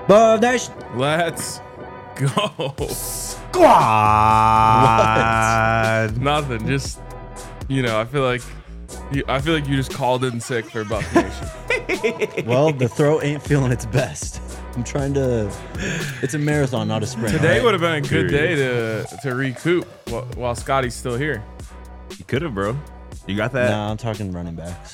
Ball Nation. Let's go. Squad. Nothing. Just, I feel like you just called in sick for Buff Nation. Well, the throat ain't feeling its best. I'm trying to. It's a marathon, not a sprint. Today right? would have been a good day to recoup while Scotty's still here. You could have, bro. You got that? Nah, I'm talking running backs.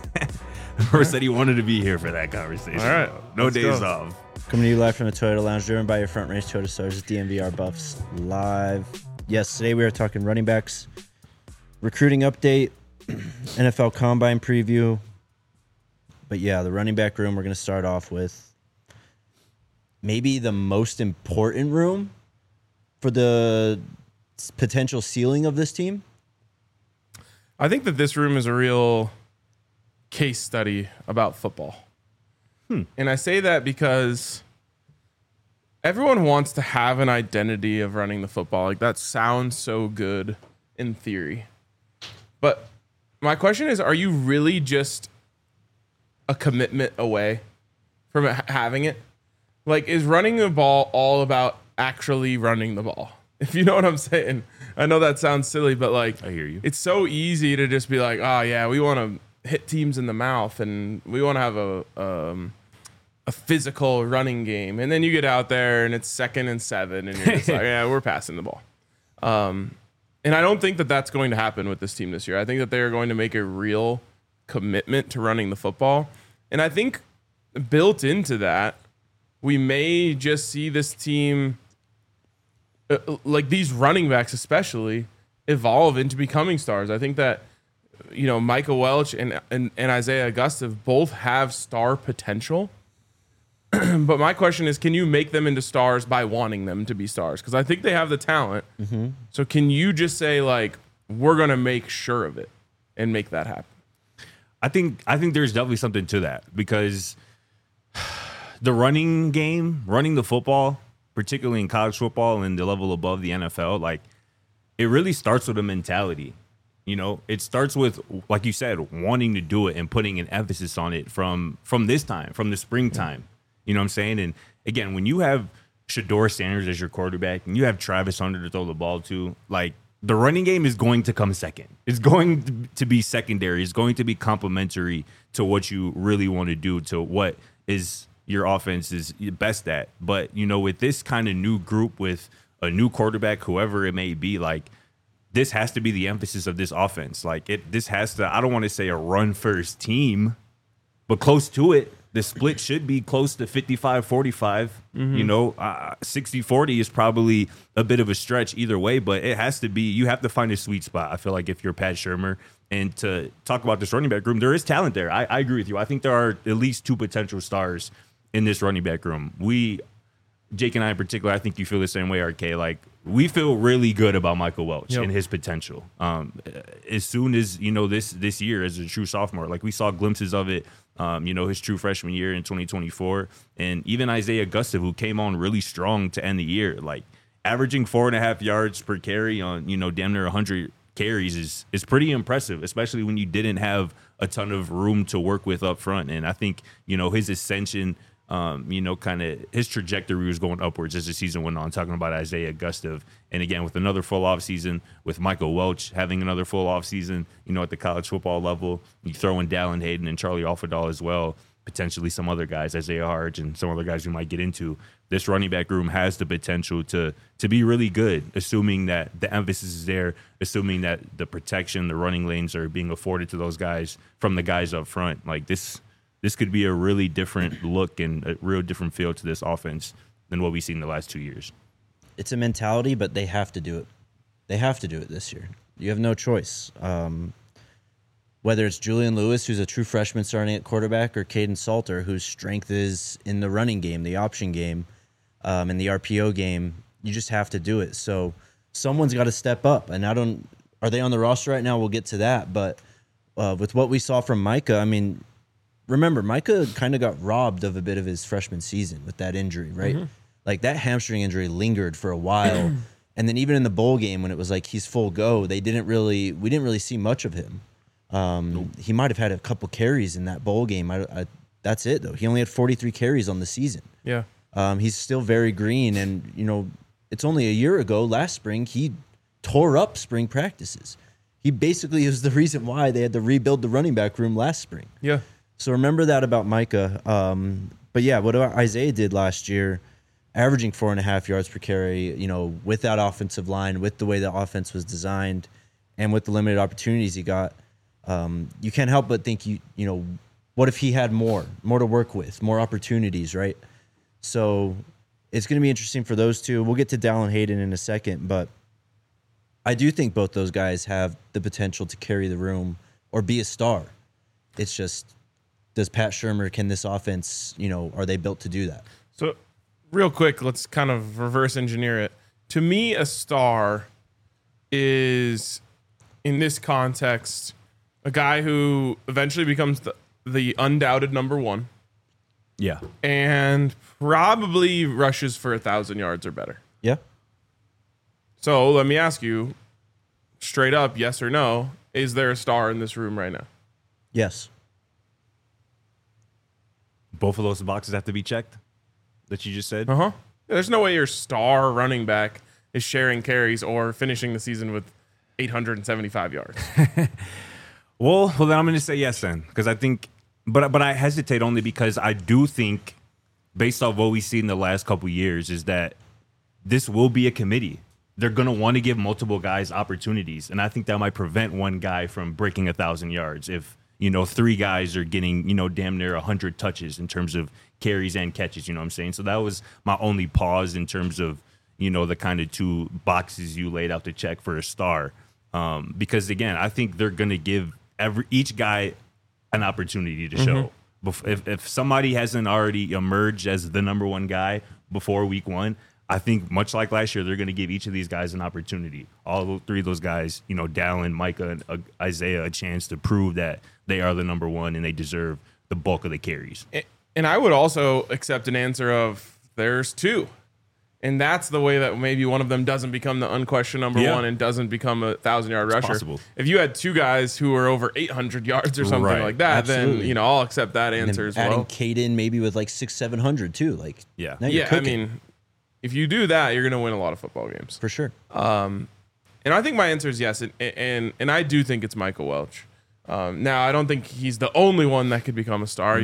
Or said he wanted to be here for that conversation. All right, No let's days go. off. Coming to you live from the Toyota Lounge, driven by your front range Toyota stars. It's DMVR Buffs live. Yes, today we are talking running backs, recruiting update, NFL Combine preview. But yeah, the running back room, we're going to start off with maybe the most important room for the potential ceiling of this team. I think that this room is a real case study about football. And I say that because everyone wants to have an identity of running the football. Like, that sounds so good in theory. But my question is, are you really just a commitment away from having it? Like, is running the ball all about actually running the ball? If you know what I'm saying. I know that sounds silly, but like, I hear you. It's so easy to just be like, oh yeah, we want to hit teams in the mouth and we want to have a physical running game. And then you get out there and it's 2nd and 7 and you're just like, yeah, we're passing the ball. And I don't think that that's going to happen with this team this year. I think that they are going to make a real commitment to running the football. And I think built into that, we may just see this team, like these running backs especially, evolve into becoming stars. I think that, Micah Welch and Isaiah Augusta both have star potential. But my question is, can you make them into stars by wanting them to be stars? Because I think they have the talent. Mm-hmm. So can you just say, like, we're going to make sure of it and make that happen? I think there's definitely something to that, because the running game, running the football, particularly in college football and the level above the NFL, like, it really starts with a mentality. It starts with, like you said, wanting to do it and putting an emphasis on it from this time, from the springtime. You know what I'm saying? And again, when you have Shedeur Sanders as your quarterback and you have Travis Hunter to throw the ball to, like, the running game is going to come second. It's going to be secondary. It's going to be complementary to what you really want to do, to what is your offense is best at. But, with this kind of new group, with a new quarterback, whoever it may be, like, this has to be the emphasis of this offense. Like, this has to, I don't want to say a run-first team, but close to it. The split should be close to 55-45. 60-40 is probably a bit of a stretch either way, but it has to be, you have to find a sweet spot. I feel like if you're Pat Shurmur, and to talk about this running back room, there is talent there. I agree with you. I think there are at least 2 potential stars in this running back room. Jake and I in particular, I think you feel the same way, RK. Like, we feel really good about Michael Welch and his potential. As soon as, this year as a true sophomore, like, we saw glimpses of it, his true freshman year in 2024. And even Isaiah Augusta, who came on really strong to end the year, like, averaging 4.5 yards per carry on, damn near 100 carries is pretty impressive, especially when you didn't have a ton of room to work with up front. And I think, his ascension, kind of his trajectory was going upwards as the season went on, talking about Isaiah Augusta. And again, with another full offseason, with Michael Welch having another full offseason, at the college football level, you throw in Dallin Hayden and Charlie Alfredal as well, potentially some other guys, Isaiah Harge and some other guys we might get into. This running back room has the potential to be really good, assuming that the emphasis is there, assuming that the protection, the running lanes are being afforded to those guys from the guys up front. Like, this could be a really different look and a real different feel to this offense than what we've seen the last 2 years. It's a mentality, but they have to do it. They have to do it this year. You have no choice. Whether it's Julian Lewis, who's a true freshman starting at quarterback, or Caden Salter, whose strength is in the running game, the option game, and the RPO game, you just have to do it. So someone's got to step up. And are they on the roster right now? We'll get to that. But with what we saw from Micah, I mean, remember, Micah kind of got robbed of a bit of his freshman season with that injury, right? Mm-hmm. Like, that hamstring injury lingered for a while. And then even in the bowl game, when it was like he's full go, we didn't really see much of him. He might have had a couple carries in that bowl game. That's it, though. He only had 43 carries on the season. Yeah. He's still very green, and it's only a year ago, last spring, he tore up spring practices. He basically is the reason why they had to rebuild the running back room last spring. Yeah. So remember that about Micah. But yeah, what Isaiah did last year, averaging 4.5 yards per carry, with that offensive line, with the way the offense was designed, and with the limited opportunities he got, you can't help but think, what if he had more to work with, more opportunities, right? So it's going to be interesting for those two. We'll get to Dallin Hayden in a second, but I do think both those guys have the potential to carry the room or be a star. It's just, does Pat Shurmur, can this offense, are they built to do that? So real quick, let's kind of reverse engineer it. To me, a star is, in this context, a guy who eventually becomes the undoubted number one. Yeah. And probably rushes for 1,000 yards or better. Yeah. So let me ask you, straight up, yes or no, is there a star in this room right now? Yes. Both of those boxes have to be checked that you just said? Uh-huh. There's no way your star running back is sharing carries or finishing the season with 875 yards. Well, then I'm going to say yes then, because I think, but I hesitate only because I do think, based off what we've seen in the last couple of years, is that this will be a committee. They're going to want to give multiple guys opportunities, and I think that might prevent one guy from breaking 1,000 yards if, 3 guys are getting, damn near 100 touches in terms of carries and catches, you know what I'm saying? So that was my only pause in terms of, the kind of 2 boxes you laid out to check for a star. Because, again, I think they're going to give each guy an opportunity to show. If somebody hasn't already emerged as the number one guy before week 1, I think much like last year, they're going to give each of these guys an opportunity. All 3 of those guys, Dallin, Micah, and Isaiah, a chance to prove that they are the number one and they deserve the bulk of the carries. And I would also accept an answer of there's 2. And that's the way that maybe one of them doesn't become the unquestioned number one and doesn't become a 1,000-yard rusher. Possible. If you had 2 guys who were over 800 yards or something like that, Absolutely. then I'll accept that answer as adding well. Caden maybe with like 600-700 too. Yeah. Now you're I cooking. mean, if you do that, you're going to win a lot of football games. For sure. And I think my answer is yes, and I do think it's Michael Welch. Now, I don't think he's the only one that could become a star.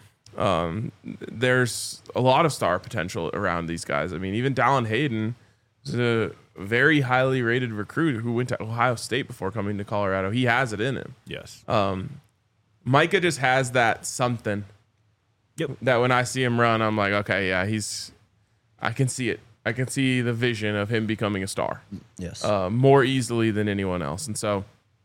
There's a lot of star potential around these guys. I mean, even Dallin Hayden is a very highly rated recruit who went to Ohio State before coming to Colorado. He has it in him. Yes. Micah just has that something. Yep. That when I see him run, I'm like, okay, yeah, I can see it. I can see the vision of him becoming a star. Yes. More easily than anyone else. And so,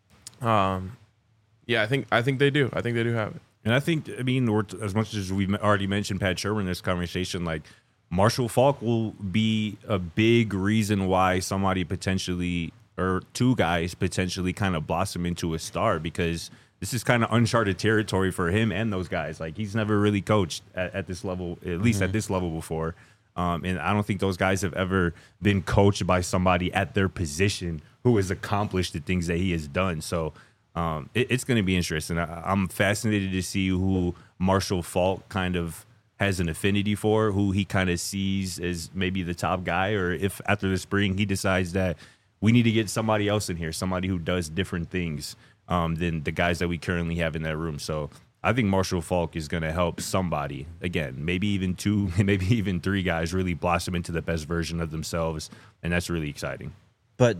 yeah, I think they do. I think they do have it. And I think, as much as we've already mentioned Pat Shurmur in this conversation, like Marshall Faulk will be a big reason why somebody potentially, or 2 guys potentially kind of blossom into a star, because this is kind of uncharted territory for him and those guys. Like, he's never really coached at this level, at least at this level before. And I don't think those guys have ever been coached by somebody at their position who has accomplished the things that he has done. So it's going to be interesting. I'm fascinated to see who Marshall Faulk kind of has an affinity for, who he kind of sees as maybe the top guy, or if after the spring he decides that we need to get somebody else in here, somebody who does different things than the guys that we currently have in that room. So I think Marshall Faulk is going to help somebody, again, maybe even 2, maybe even 3 guys really blossom into the best version of themselves, and that's really exciting. But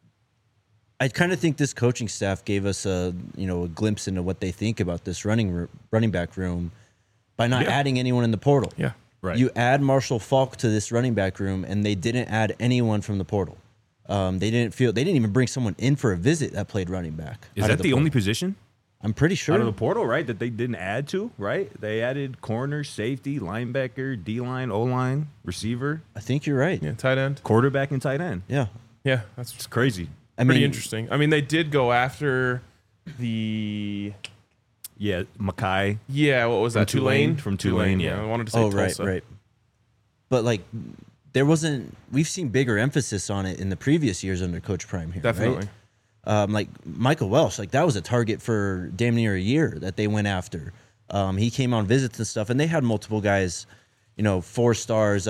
I kind of think this coaching staff gave us a glimpse into what they think about this running back room by not adding anyone in the portal. Yeah, right. You add Marshall Faulk to this running back room, and they didn't add anyone from the portal. They didn't even bring someone in for a visit that played running back. Is that the only position I'm pretty sure out of the portal, right, that they didn't add to, right? They added corner, safety, linebacker, D-line, O-line, receiver, I think you're right. yeah, tight end. quarterback, and tight end. Yeah. Yeah, that's It's crazy. pretty interesting. I mean, they did go after the Yeah, Mackay. what was that? Tulane? From Tulane, yeah. I wanted to say Oh, right, Tulsa. right. But we've seen bigger emphasis on it in the previous years under Coach Prime here. Definitely. Right? Like Michael Welsh, that was a target for damn near a year that they went after. He came on visits and stuff, and they had multiple guys, 4 stars.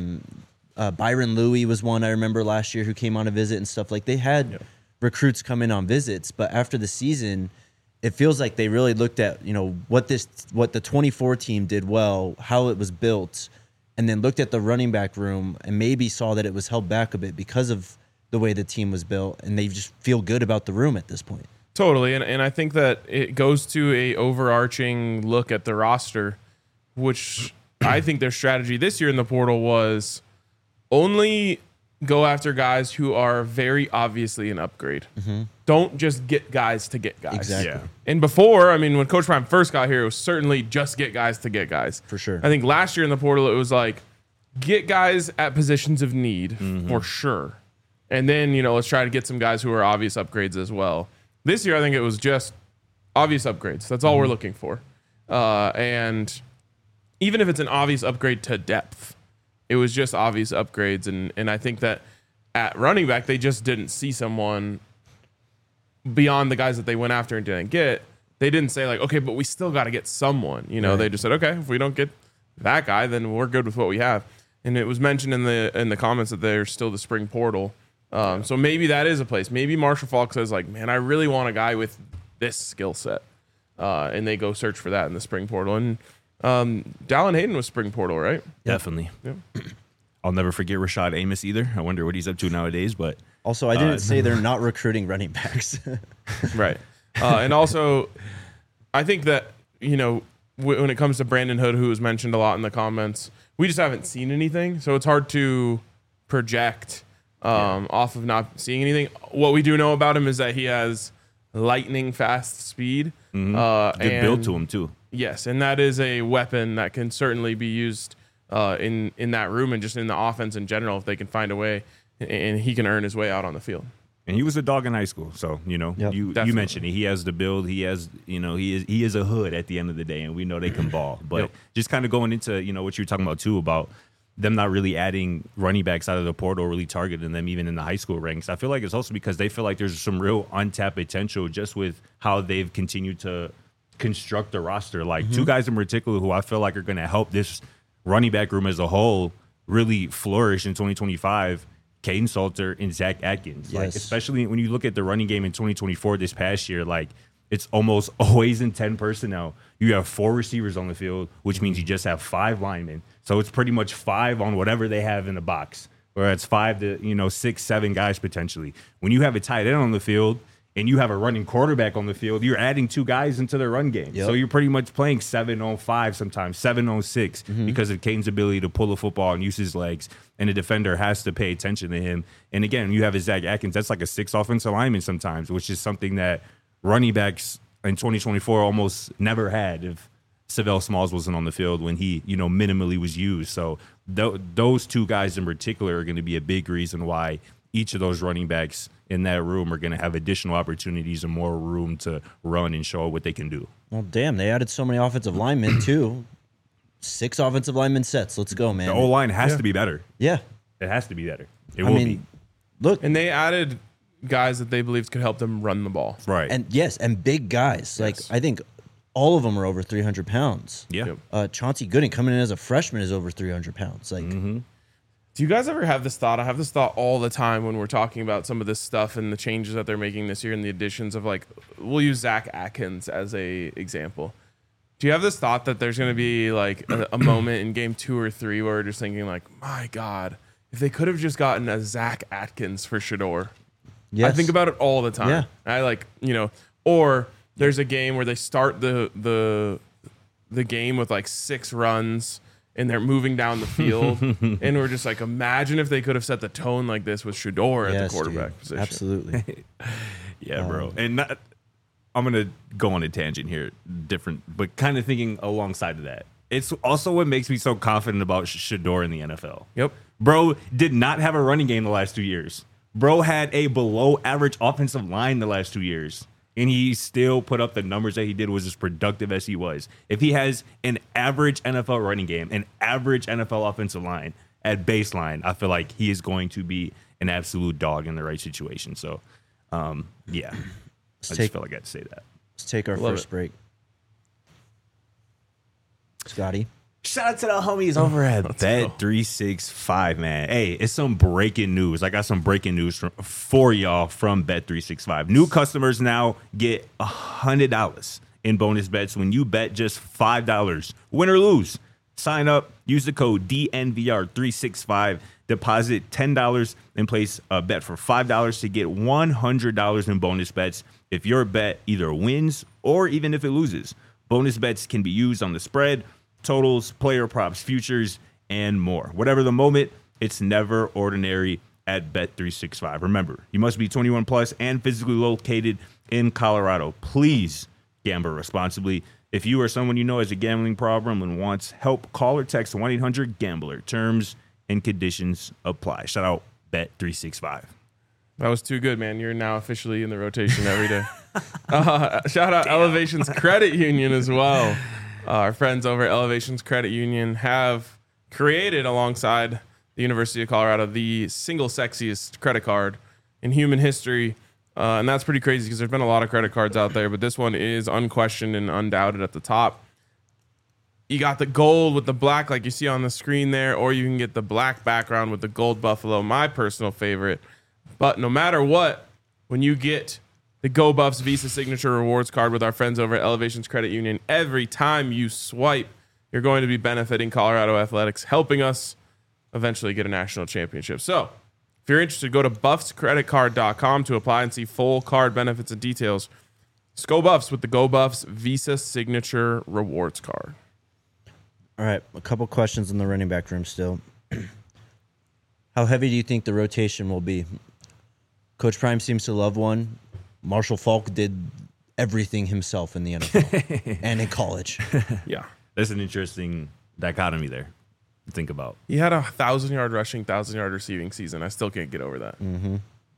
Byron Louie was one I remember last year who came on a visit and stuff. Like they had recruits come in on visits, but after the season, it feels like they really looked at what the 24 team did well, how it was built, and then looked at the running back room and maybe saw that it was held back a bit because of the way the team was built, and they just feel good about the room at this point. Totally, and I think that it goes to a overarching look at the roster, which I think their strategy this year in the portal was only go after guys who are very obviously an upgrade. Mm-hmm. Don't just get guys to get guys. Exactly. Yeah. And before, when Coach Prime first got here, it was certainly just get guys to get guys. For sure. I think last year in the portal, it was like get guys at positions of need for sure. And then, let's try to get some guys who are obvious upgrades as well. This year, I think it was just obvious upgrades. That's all we're looking for. And even if it's an obvious upgrade to depth, it was just obvious upgrades. And I think that at running back, they just didn't see someone beyond the guys that they went after and didn't get. They didn't say like, okay, but we still got to get someone. Right. They just said, okay, if we don't get that guy, then we're good with what we have. And it was mentioned in the comments that they're still the spring portal. So maybe that is a place. Maybe Marshall Faulk says like, man, I really want a guy with this skill set. And they go search for that in the spring portal. And Dallin Hayden was spring portal, right? Definitely. Yep. I'll never forget Rashad Amos either. I wonder what he's up to nowadays. But Also, I didn't say they're not recruiting running backs. Right. And also, I think that, when it comes to Brandon Hood, who was mentioned a lot in the comments, we just haven't seen anything. So it's hard to project off of not seeing anything. What we do know about him is that he has lightning fast speed. good build to him too. Yes, and that is a weapon that can certainly be used in that room and just in the offense in general if they can find a way, and he can earn his way out on the field. And he was a dog in high school, so you Definitely. mentioned it. He has the build. He has he is a hood at the end of the day, and we know they can ball. But just kind of going into what you were talking about too about them not really adding running backs out of the portal, really targeting them even in the high school ranks. I feel like it's also because they feel like there's some real untapped potential just with how they've continued to construct the roster. Like two guys in particular who I feel like are going to help this running back room as a whole really flourish in 2025. Caden Salter and Zach Atkins. Yes. Like, especially when you look at the running game in 2024 this past year, like it's almost always in 10 personnel. You have 4 receivers on the field, which means you just have 5 linemen. So it's pretty much 5 on whatever they have in the box, or it's 5 to 6, 7 guys potentially. When you have a tight end on the field and you have a running quarterback on the field, you're adding 2 guys into the run game. Yep. So you're pretty much playing 7 on 5 sometimes, 7 on 6 because of Caden's ability to pull the football and use his legs. And the defender has to pay attention to him. And again, you have a Zach Atkins. That's like a 6 offensive lineman sometimes, which is something that running backs in 2024 almost never had if Savell Smalls wasn't on the field when he, minimally was used. So those 2 guys in particular are going to be a big reason why each of those running backs in that room are going to have additional opportunities and more room to run and show what they can do. Well, damn, they added so many offensive linemen too. 6 offensive lineman sets. Let's go, man. The O-line has to be better. Yeah. It has to be better. It will be. Look, And they added guys that they believed could help them run the ball. Right. and big guys. Like Yes. I think all of them are over 300 pounds. yeah. Yep. Chauncey Gooden coming in as a freshman is over 300 pounds. Like, Do you guys ever have this thought? I have this thought all the time when we're talking about some of this stuff and the changes that they're making this year and the additions of, like, we'll use Zach Atkins as a example. Do you have this thought that there's going to be like a moment in game 2 or 3 where we're just thinking like, my God, if they could have just gotten a Zach Atkins for Shador? yes. I think about it all the time. Yeah. I or there's a game where they start the game with like 6 runs and they're moving down the field, and we're just like, imagine if they could have set the tone like this with Shador at Yes, the quarterback dude. position. Absolutely. Yeah, bro. And I'm going to go on a tangent here, different, but kind of thinking alongside of that. It's also what makes me so confident about Shador in the NFL. Yep. Bro did not have a running game the last 2 years. Bro had a below average offensive line the last 2 years. And he still put up the numbers that he did, was as productive as he was. If he has an average NFL running game, an average NFL offensive line at baseline, I feel like he is going to be an absolute dog in the right situation. So, yeah, I just felt like I had to say that. Let's take our Love first it. break. Scotty, Shout out to the homies over at Bet365, man. Hey, it's some breaking news. I got some breaking news for y'all from Bet365. New customers now get $100 in bonus bets when you bet just $5. Win or lose. Sign up, use the code DNVR365, deposit $10 and place a bet for $5 to get $100 in bonus bets if your bet either wins or even if it loses. Bonus bets can be used on the spread, totals, player props, futures, and more. Whatever the moment, it's never ordinary at Bet365. Remember, you must be 21 plus and physically located in Colorado. Please gamble responsibly. If you or someone you know has a gambling problem and wants help, call or text 1-800-GAMBLER. Terms and conditions apply. Shout out Bet365. That was too good, man. You're now officially in the rotation every day. Shout out Elevations Credit Union as well. Our friends over at Elevations Credit Union have created, alongside the University of Colorado, the single sexiest credit card in human history. And that's pretty crazy because there's been a lot of credit cards out there, but this one is unquestioned and undoubted at the top. You got the gold with the black like you see on the screen there, or you can get the black background with the gold buffalo, my personal favorite. But no matter what, when you get the Go Buffs Visa Signature Rewards card with our friends over at Elevations Credit Union, every time you swipe, you're going to be benefiting Colorado athletics, helping us eventually get a national championship. So if you're interested, go to buffscreditcard.com to apply and see full card benefits and details. It's Go Buffs with the Go Buffs Visa Signature Rewards card. All right, a couple questions in the running back room still. How heavy do you think the rotation will be? Coach Prime seems to love one. Marshall Faulk did everything himself in the NFL and in college. Yeah. That's an interesting dichotomy there to think about. He had 1,000-yard rushing, 1,000-yard receiving season. I still can't get over that. Mm-hmm.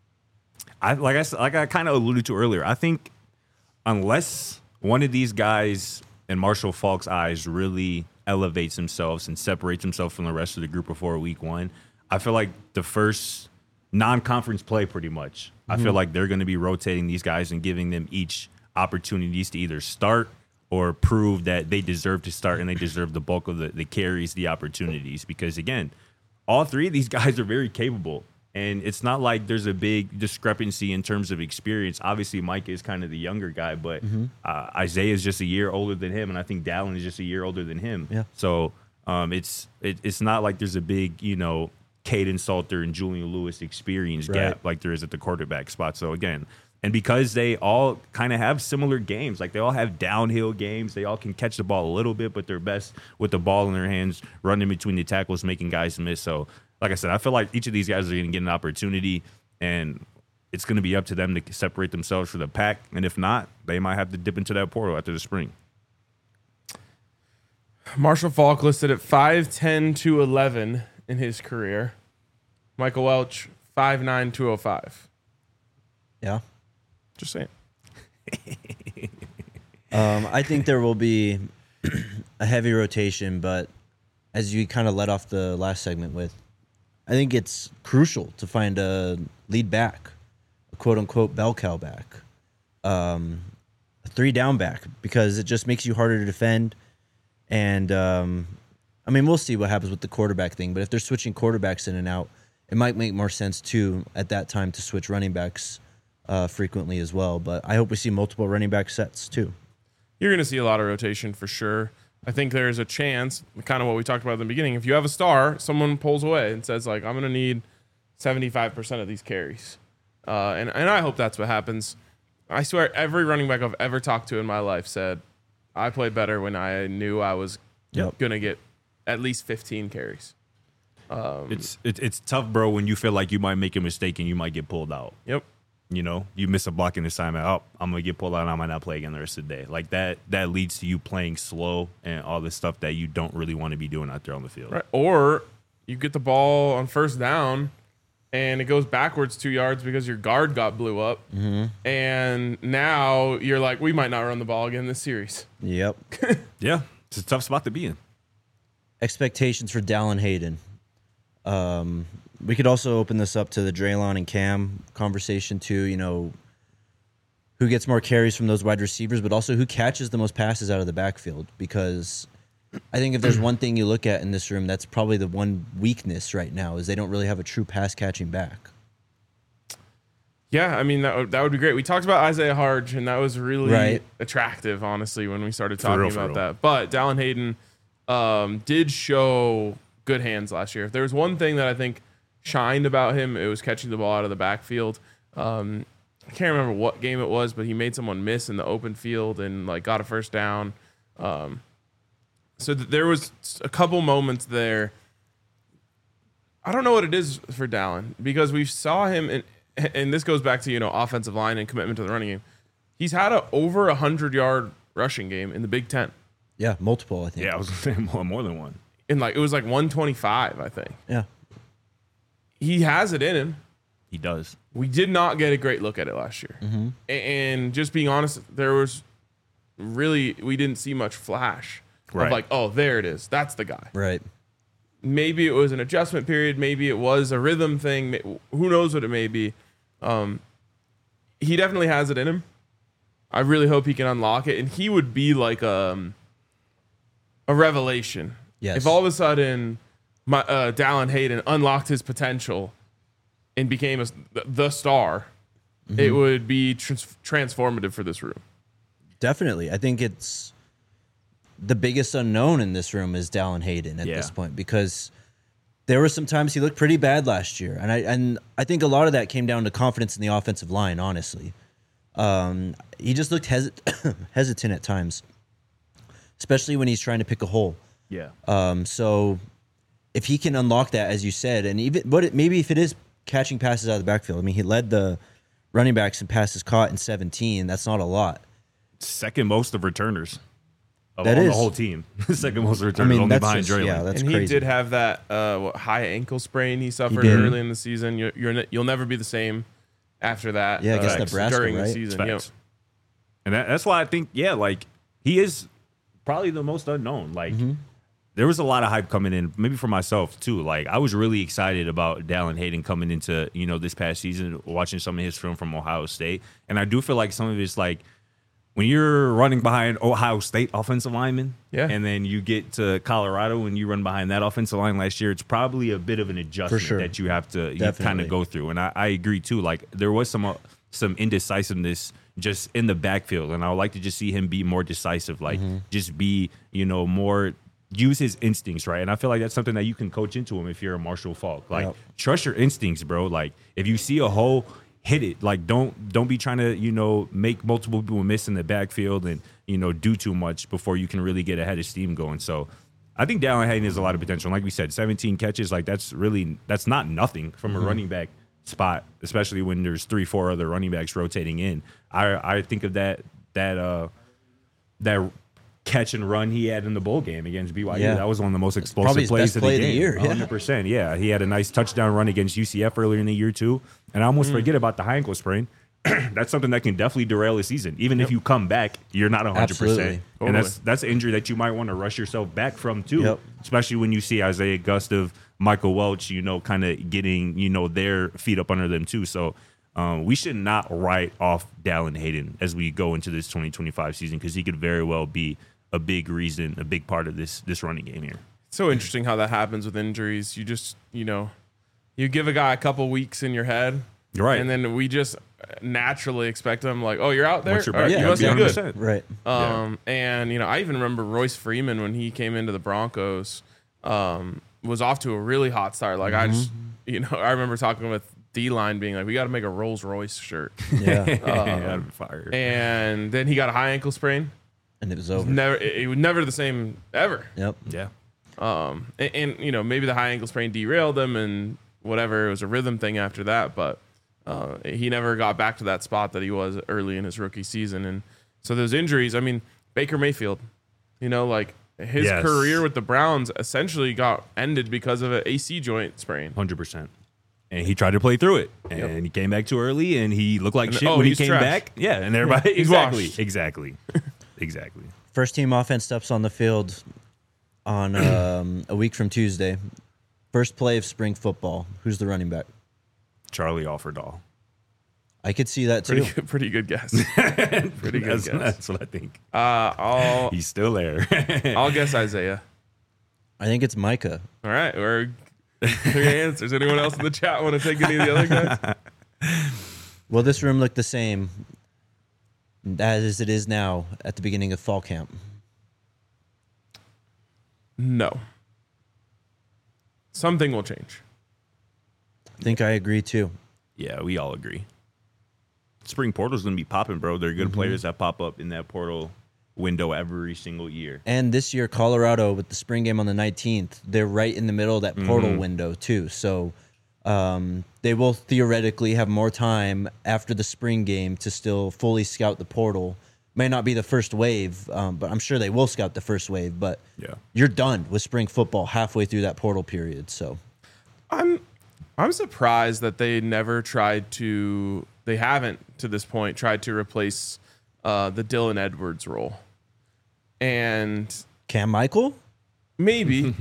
Like I kind of alluded to earlier, I think unless one of these guys in Marshall Faulk's eyes really elevates themselves and separates himself from the rest of the group before week one, I feel like the first non-conference play pretty much, I feel like they're going to be rotating these guys and giving them each opportunities to either start or prove that they deserve to start and they deserve the bulk of the carries, the opportunities. Because, again, all three of these guys are very capable. And it's not like there's a big discrepancy in terms of experience. Obviously, Mike is kind of the younger guy, but Isaiah is just a year older than him, and I think Dallin is just a year older than him. Yeah. So it's not like there's a big, Caden Salter and Julian Lewis experience gap like there is at the quarterback spot. So, again, and because they all kind of have similar games, like they all have downhill games, they all can catch the ball a little bit, but they're best with the ball in their hands, running between the tackles, making guys miss. So, like I said, I feel like each of these guys are going to get an opportunity, and it's going to be up to them to separate themselves from the pack. And if not, they might have to dip into that portal after the spring. Marshall Faulk listed at 5'10", 211 in his career. Michael Welch, 5'9", 205. Yeah. Just saying. I think there will be a heavy rotation, but as you kind of led off the last segment with, I think it's crucial to find a lead back, a quote-unquote bell cow back, a 3-down back, because it just makes you harder to defend. And, we'll see what happens with the quarterback thing, but if they're switching quarterbacks in and out, it might make more sense, too, at that time to switch running backs frequently as well. But I hope we see multiple running back sets, too. You're going to see a lot of rotation for sure. I think there's a chance, kind of what we talked about in the beginning, if you have a star, someone pulls away and says, like, I'm going to need 75% of these carries. And I hope that's what happens. I swear every running back I've ever talked to in my life said, I played better when I knew I was going to get at least 15 carries. It's tough, bro, when you feel like you might make a mistake and you might get pulled out. Yep. You miss a blocking assignment. Oh, I'm going to get pulled out and I might not play again the rest of the day. Like that leads to you playing slow and all this stuff that you don't really want to be doing out there on the field. Right. Or you get the ball on first down and it goes backwards 2 yards because your guard got blew up. Mm-hmm. And now you're like, we might not run the ball again this series. Yep. Yeah. It's a tough spot to be in. Expectations for Dallin Hayden. We could also open this up to the Draylon and Cam conversation too, who gets more carries from those wide receivers, but also who catches the most passes out of the backfield, because I think if there's one thing you look at in this room, that's probably the one weakness right now is they don't really have a true pass catching back. Yeah, I mean that would be great. We talked about Isaiah Harge, and that was really Right. attractive, honestly, when we started talking real, for about real. that. But Dallin Hayden did show good hands last year. If there was one thing that I think shined about him, it was catching the ball out of the backfield. I can't remember what game it was, but he made someone miss in the open field and like got a first down. So there was a couple moments there. I don't know what it is for Dallin because we saw him and this goes back to, offensive line and commitment to the running game. He's had a over 100-yard rushing game in the Big Ten. Yeah, multiple, I think. Yeah, I was going to say more than one. And it was like 125, I think. Yeah. He has it in him. He does. We did not get a great look at it last year. Mm-hmm. And just being honest, we didn't see much flash Right. of like, oh, there it is. That's the guy. Right. Maybe it was an adjustment period. Maybe it was a rhythm thing. Who knows what it may be. He definitely has it in him. I really hope he can unlock it. And he would be like a revelation. Yes. If all of a sudden Dallin Hayden unlocked his potential and became the star, it would be transformative for this room. Definitely. I think it's the biggest unknown in this room is Dallin Hayden at Yeah. this point because there were some times he looked pretty bad last year. And I think a lot of that came down to confidence in the offensive line, honestly. He just looked hesitant at times, especially when he's trying to pick a hole. Yeah. So if he can unlock that, as you said, and maybe if it is catching passes out of the backfield, I mean, he led the running backs in passes caught in 17. That's not a lot. Second most of returners. On That the is. whole team. Second most returners, I mean, only that's behind just, Draylen. yeah, that's and he crazy. did have that high ankle sprain he suffered did. early in the season. You'll never be the same after that. Yeah, against Nebraska, during the right? season. Facts. Yep. And that's why I think, he is probably the most unknown. There was a lot of hype coming in, maybe for myself too. I was really excited about Dallin Hayden coming into, this past season, watching some of his film from Ohio State. And I do feel like some of it's when you're running behind Ohio State offensive linemen, Yeah. and then you get to Colorado and you run behind that offensive line last year, it's probably a bit of an adjustment sure. that you have to kind Definitely. of go through. And I agree too. There was some indecisiveness just in the backfield, and I would like to just see him be more decisive, just be more use his instincts, right? And I feel like that's something that you can coach into him if you're a Marshall Faulk. Yep. Trust your instincts, bro. If you see a hole, hit it. Don't be trying to make multiple people miss in the backfield and do too much before you can really get ahead of steam going. So I think Dallin Hayden has a lot of potential. Like we said, 17 catches, that's not nothing from a running back spot, especially when there's 3-4 other running backs rotating in. I think of that catch and run he had in the bowl game against BYU. Yeah. That was one of the most probably explosive his plays best of play the of the game. year, yeah. 100%. Yeah, he had a nice touchdown run against UCF earlier in the year too. And I almost forget about the high ankle sprain. That's something that can definitely derail a season. Even if you come back, you're not 100%. Absolutely. And that's an injury that you might want to rush yourself back from too. Yep. Especially when you see Isaiah Gustav, Michael Welch, kind of getting, their feet up under them too. So we should not write off Dallin Hayden as we go into this 2025 season because he could very well be a big reason, a big part of this running game here. So interesting how that happens with injuries. You just, you give a guy a couple weeks in your head. You're right. And then we just naturally expect them oh, you're out there? Once you're All right, back, you must be good. 100%. Right. And, I even remember Royce Freeman when he came into the Broncos was off to a really hot start. I just, I remember talking with D-line being we got to make a Rolls Royce shirt. Yeah. Yeah, fire. And then he got a high ankle sprain. And it was over. It was never the same ever. Yep. Yeah. And maybe the high ankle sprain derailed him and whatever. It was a rhythm thing after that, but he never got back to that spot that he was early in his rookie season. And so those injuries, I mean, Baker Mayfield, his Yes. career with the Browns essentially got ended because of an AC joint sprain. 100%. And he tried to play through it, and he came back too early, and he looked like shit when he he's came trash. back. Yeah, and everybody He's exactly. First team offense steps on the field on a week from Tuesday. First play of spring football. Who's the running back? Charlie Offerdahl. I could see that too. Pretty good guess. Pretty good guess. That's what I think. He's still there. I'll guess Isaiah. I think it's Micah. All right, we're three answers. Anyone else in the chat want to take any of the other guys? Will this room look the same as it is now at the beginning of fall camp? No. Something will change. I think I agree too. Yeah, we all agree. Spring portal's going to be popping, bro. There are good players that pop up in that portal window every single year. And this year, Colorado, with the spring game on the 19th, they're right in the middle of that portal window too. So they will theoretically have more time after the spring game to still fully scout the portal. May not be the first wave, but I'm sure they will scout the first wave. But you're done with spring football halfway through that portal period. So I'm surprised that they never tried to. They haven't to this point tried to replace the Dylan Edwards role. And Cam Michael? Maybe.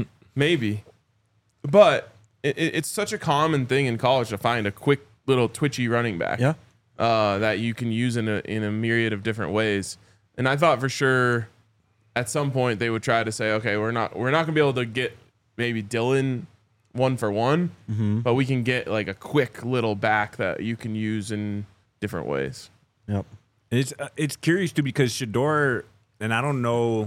But it's such a common thing in college to find a quick little twitchy running back that you can use in a myriad of different ways. And I thought for sure at some point they would try to say, okay, we're not going to be able to get maybe Dylan 1-for-1, but we can get like a quick little back that you can use in different ways. Yep. It's curious too because Shedeur, and I don't know,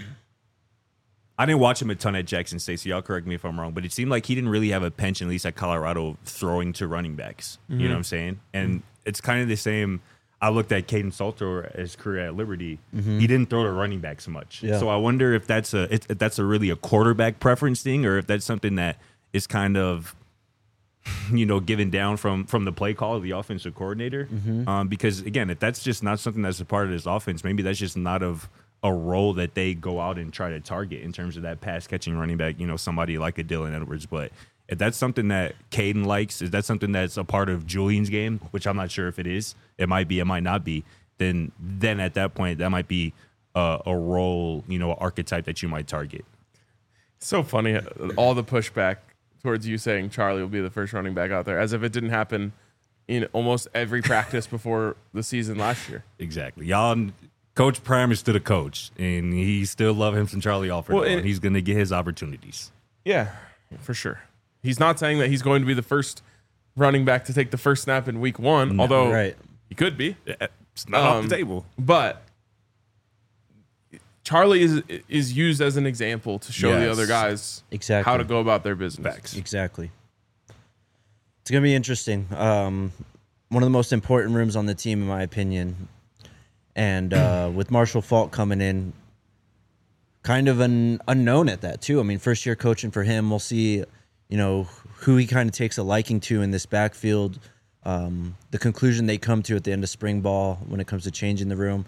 I didn't watch him a ton at Jackson State, so y'all correct me if I'm wrong, but it seemed like he didn't really have a penchant, at least at Colorado, throwing to running backs. You know what I'm saying? And it's kind of the same. I looked at Caden Salter, his career at Liberty. He didn't throw to running backs much. Yeah. So I wonder if that's really a quarterback preference thing, or if that's something that is kind of, given down from the play call of the offensive coordinator. Because again, if that's just not something that's a part of this offense, maybe that's just not of a role that they go out and try to target in terms of that pass catching running back, somebody like a Dylan Edwards. But if that's something that Caden likes, is that something that's a part of Julian's game, which I'm not sure if it is, it might be, it might not be, then at that point, that might be a role, archetype that you might target. So funny, all the pushback towards you saying Charlie will be the first running back out there, as if it didn't happen in almost every practice before the season last year. Exactly. Y'all, Coach Prime is still a coach, and he still love him some Charlie Alford, and he's going to get his opportunities. Yeah, for sure. He's not saying that he's going to be the first running back to take the first snap in week one, although he could be. It's not off the table. But Charlie is used as an example to show the other guys how to go about their business. Facts. Exactly. It's going to be interesting. One of the most important rooms on the team, in my opinion. And with Marshall Faulk coming in, kind of an unknown at that, too. I mean, first year coaching for him. We'll see, who he kind of takes a liking to in this backfield. The conclusion they come to at the end of spring ball when it comes to changing the room.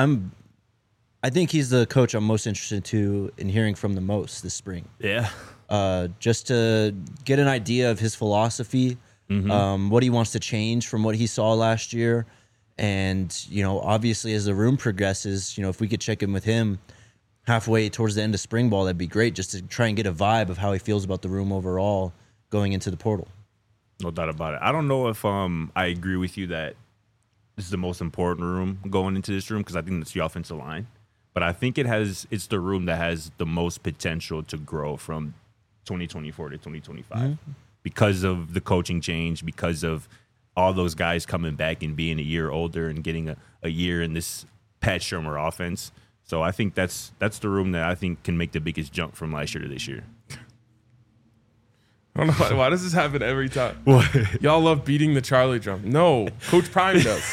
I think he's the coach I'm most interested in hearing from the most this spring. Yeah. Just to get an idea of his philosophy, what he wants to change from what he saw last year. And, obviously as the room progresses, if we could check in with him halfway towards the end of spring ball, that'd be great, just to try and get a vibe of how he feels about the room overall going into the portal. No doubt about it. I don't know if I agree with you that this is the most important room going into this room, because I think it's the offensive line. But I think it's the room that has the most potential to grow from 2024 to 2025 because of the coaching change, because of all those guys coming back and being a year older and getting a year in this Pat Shurmur offense. So I think that's the room that I think can make the biggest jump from last year to this year. I don't know why does this happen every time? What? Y'all love beating the Charlie drum. No, Coach Prime does.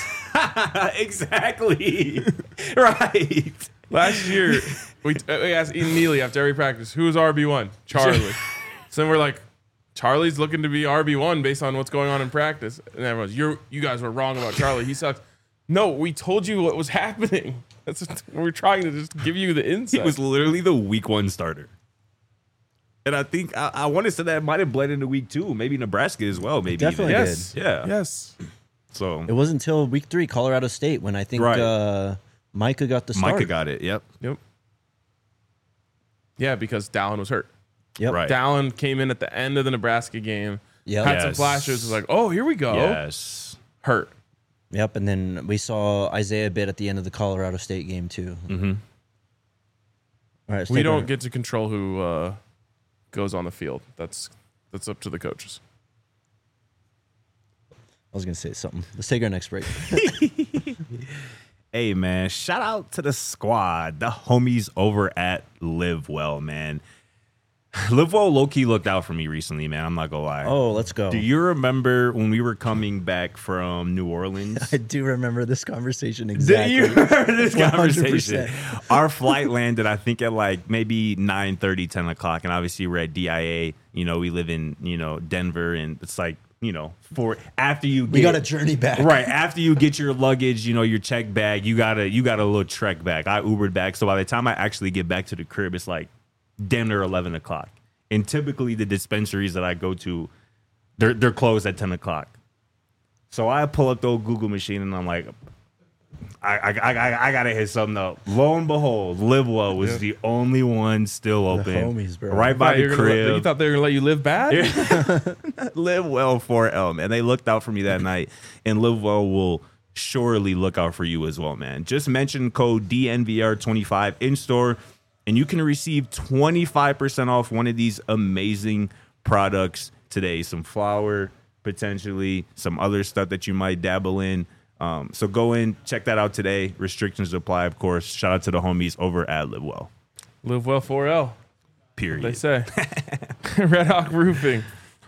Exactly. Right. Last year, we asked Ian Neely after every practice, who was RB1? Charlie. So then we're like, Charlie's looking to be RB1 based on what's going on in practice. And everyone's, you guys were wrong about Charlie. He sucks. No, we told you what was happening. We're trying to just give you the insight. He was literally the week one starter. And I think I want to say that might have bled into week two, maybe Nebraska as well. Maybe Definitely even. did. Yeah. Yes. So It wasn't until week 3, Colorado State, when I think Micah got the start. Micah got it. Yep. Yeah, because Dallin was hurt. Yep. Right. Dallin came in at the end of the Nebraska game. Yep. Had some flashes. Was like, oh, here we go. Yes. Hurt. Yep, and then we saw Isaiah a bit at the end of the Colorado State game too. Mm-hmm. All right, let's We take don't our- get to control who goes on the field. That's up to the coaches. I was gonna say something. Let's take our next break. Hey, man, shout out to the squad, the homies over at Live Well, man. Live Well low-key looked out for me recently, man. I'm not going to lie. Oh, let's go. Do you remember when we were coming back from New Orleans? I do remember this conversation Do exactly. you remember this 100%. conversation? Our flight landed, I think, at like maybe 9:30, 10 o'clock. And obviously, we're at DIA. You know, we live in, Denver. And it's like, for after you get. We got a journey back. Right. After you get your luggage, your check bag, you got a little trek back. I Ubered back. So by the time I actually get back to the crib, it's like damn near 11 o'clock. And typically the dispensaries that I go to, they're closed at 10 o'clock. So I pull up the old Google machine and I'm like, I gotta hit something up. Lo and behold, Live Well was the only one still open. homies, bro. Right by the You crib. thought they were gonna let you live bad? Live Well 4L, man. They looked out for me that night, and Live Well will surely look out for you as well, man. Just mention code DNVR25 in store, and you can receive 25% off one of these amazing products today. Some flour, potentially, some other stuff that you might dabble in. So go in, check that out today. Restrictions apply, of course. Shout out to the homies over at Live Well. Live well 4L. Period. They say. Red Hawk Roofing.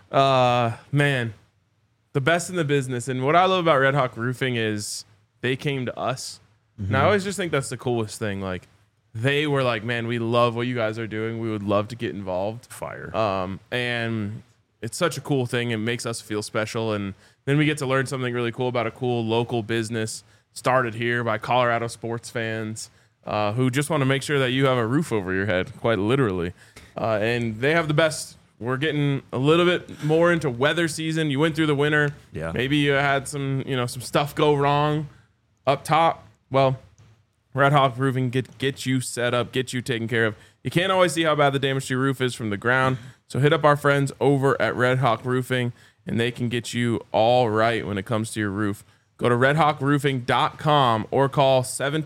Man, the best in the business. And what I love about Red Hawk Roofing is they came to us. And I always just think that's the coolest thing. Like, they were like, man, we love what you guys are doing. We would love to get involved. Fire. And it's such a cool thing. It makes us feel special. And then we get to learn something really cool about a cool local business started here by Colorado sports fans who just want to make sure that you have a roof over your head, quite literally. And they have the best. We're getting a little bit more into weather season. You went through the winter. Yeah. Maybe you had some stuff go wrong up top. Well, Red Hawk Roofing get you set up, get you taken care of. You can't always see how bad the damage to your roof is from the ground. So hit up our friends over at Red Hawk Roofing, and they can get you all right when it comes to your roof. Go to redhawkroofing.com or call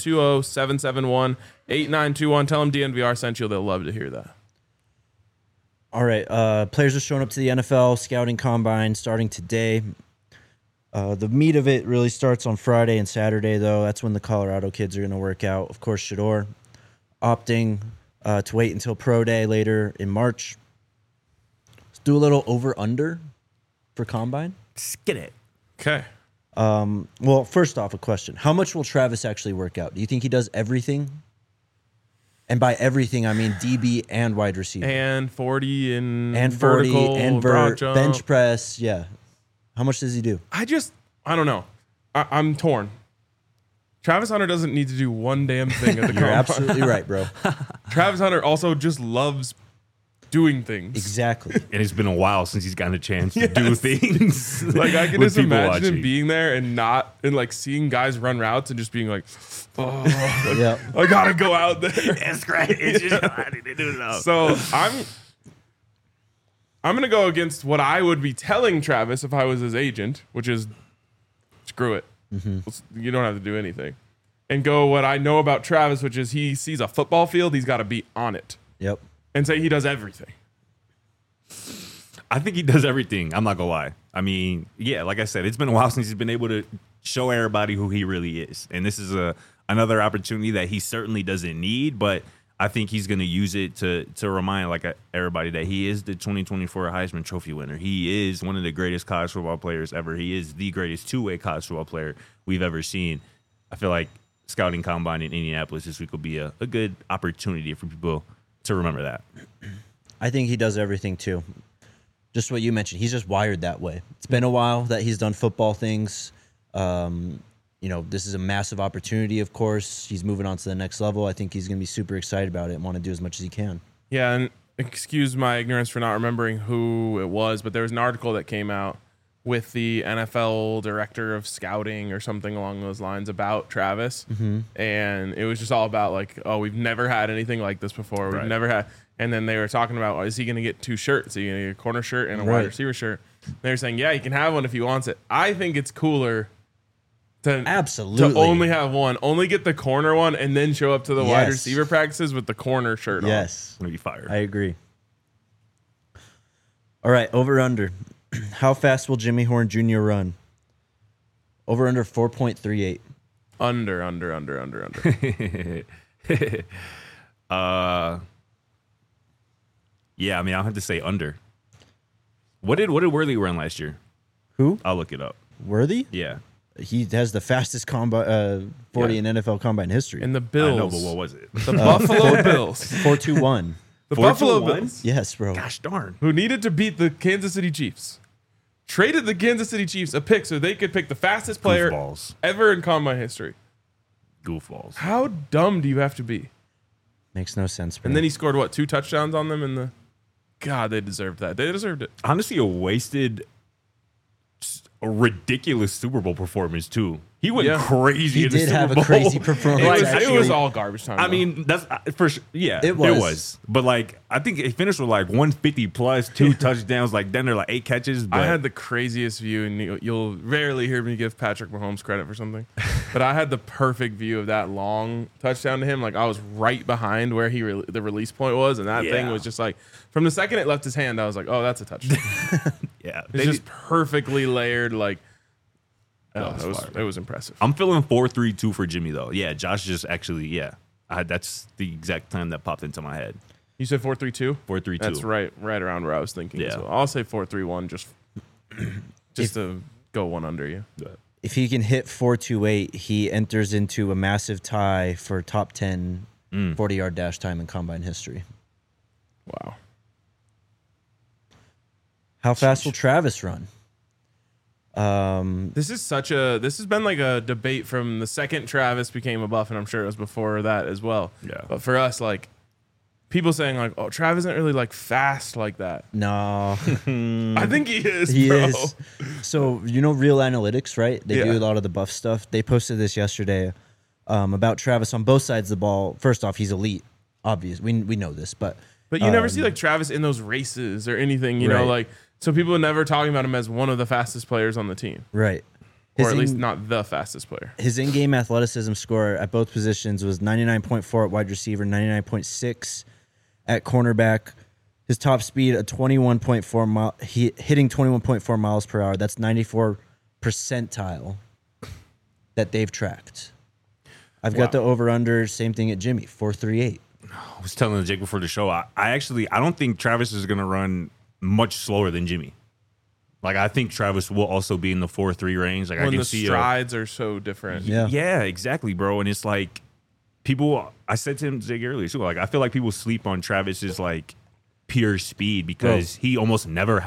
720-771-8921. Tell them DNVR sent you. They'll love to hear that. All right. Players are showing up to the NFL scouting combine starting today. The meat of it really starts on Friday and Saturday, though. That's when the Colorado kids are going to work out. Of course, Shador opting to wait until Pro Day later in March. Let's do a little over-under for combine. Skid it. Okay. Well, first off, a question. How much will Travis actually work out? Do you think he does everything? And by everything, I mean DB and wide receiver. And 40 and 40 vertical, and broad jump. bench press. Yeah. How much does he do? I don't know. I'm torn. Travis Hunter doesn't need to do one damn thing at the You're combine. absolutely right, bro. Travis Hunter also just loves doing things. Exactly. And it's been a while since he's gotten a chance to do things. Like, I can with just people imagine him watching. being there and like seeing guys run routes and just being like, oh, Yeah. I gotta go out there. That's great. It's just I need to do it now. So I'm gonna go against what I would be telling Travis if I was his agent, which is screw it. You don't have to do anything. And go what I know about Travis, which is he sees a football field, he's got to be on it, Yep. and say he does everything. I think he does everything. I'm not gonna lie. I mean, yeah, like I said, it's been a while since he's been able to show everybody who he really is, and this is another opportunity that he certainly doesn't need, but I think he's gonna use it to remind everybody that he is the 2024 Heisman Trophy winner. He is one of the greatest college football players ever. He is the greatest two-way college football player we've ever seen. I feel like scouting combine in Indianapolis this week will be a good opportunity for people to remember that. I think he does everything too. Just what you mentioned. He's just wired that way. It's been a while that he's done football things. This is a massive opportunity, of course. He's moving on to the next level. I think he's going to be super excited about it and want to do as much as he can. Yeah, and excuse my ignorance for not remembering who it was, but there was an article that came out with the NFL director of scouting or something along those lines about Travis. And it was just all about like, oh, we've never had anything like this before. We've Right. never had. And then they were talking about, is he going to get two shirts? Is he going to get a corner shirt and a Right. wide receiver shirt? They're saying, yeah, he can have one if he wants it. I think it's cooler Absolutely. To only have one, only get the corner one, and then show up to the wide Yes. receiver practices with the corner shirt on. Yes, Gonna be fired. I agree. All right, over under. How fast will Jimmy Horn Jr. run? Over under 4.38. Under. Yeah, I mean, I'll have to say under. What did Worthy run last year? Who? I'll look it up. Worthy? Yeah. He has the fastest 40 in NFL combine history. And the I Bills. know, but what was it? The Buffalo Bills. 4.21. The 4-2-1? Buffalo Bills. Yes, bro. Gosh darn. Who needed to beat the Kansas City Chiefs. Traded the Kansas City Chiefs a pick so they could pick the fastest player Goofballs. ever in combine history. Goofballs. How dumb do you have to be? Makes no sense, bro. And then he scored, 2 touchdowns on them in the... God, they deserved that. They deserved it. Honestly, a ridiculous Super Bowl performance, too. He went Yeah. crazy He in the did Super have a Bowl. crazy performance. It Like, was all garbage time. I though. mean, that's for sure. Yeah, It was. But like, I think it finished with like 150 plus, 2 touchdowns. Like then they're like 8 catches. But I had the craziest view, and you'll rarely hear me give Patrick Mahomes credit for something, but I had the perfect view of that long touchdown to him. Like I was right behind where the release point was, and that thing Yeah. was just like from the second it left his hand, I was like, oh, that's a touchdown. yeah. It's just perfectly layered. Like it was impressive. I'm feeling 4-3-2 for Jimmy though. Yeah, Josh just actually that's the exact time that popped into my head. You said 4-3-2. 4-3-2. That's right around where I was thinking. Yeah. So I'll say 4-3-1 just to go one under you. if he can hit 4.28, he enters into a massive tie for top 10 40-yard dash time in combine history. Wow. How fast will Travis run? This has been like a debate from the second Travis became a Buff, and I'm sure it was before that as well. Yeah. But for us, like people saying like, oh, Travis isn't really like fast like that. No, I think he is, he bro. is. So, you know Real Analytics, right? They do Yeah. a lot of the Buff stuff. They posted this yesterday about Travis on both sides of the ball. First off, he's elite. Obvious. We know this, but But you never see like Travis in those races or anything, you know, Right. like so people are never talking about him as one of the fastest players on the team. right. Or at least not the fastest player. His in-game athleticism score at both positions was 99.4 at wide receiver, 99.6 at cornerback. His top speed a 21.4 mile, hitting 21.4 miles per hour. That's 94 percentile that they've tracked. I've got the over/under. Same thing at Jimmy, 4.38. I was telling Jake before the show, I don't think Travis is going to run much slower than Jimmy. Like, I think Travis will also be in the 4.3 range. Like, I When can the see strides are so different. Yeah. Yeah, exactly, bro. And it's like people. I said to him Jake earlier too. Like, I feel like people sleep on Travis's like pure speed because he almost never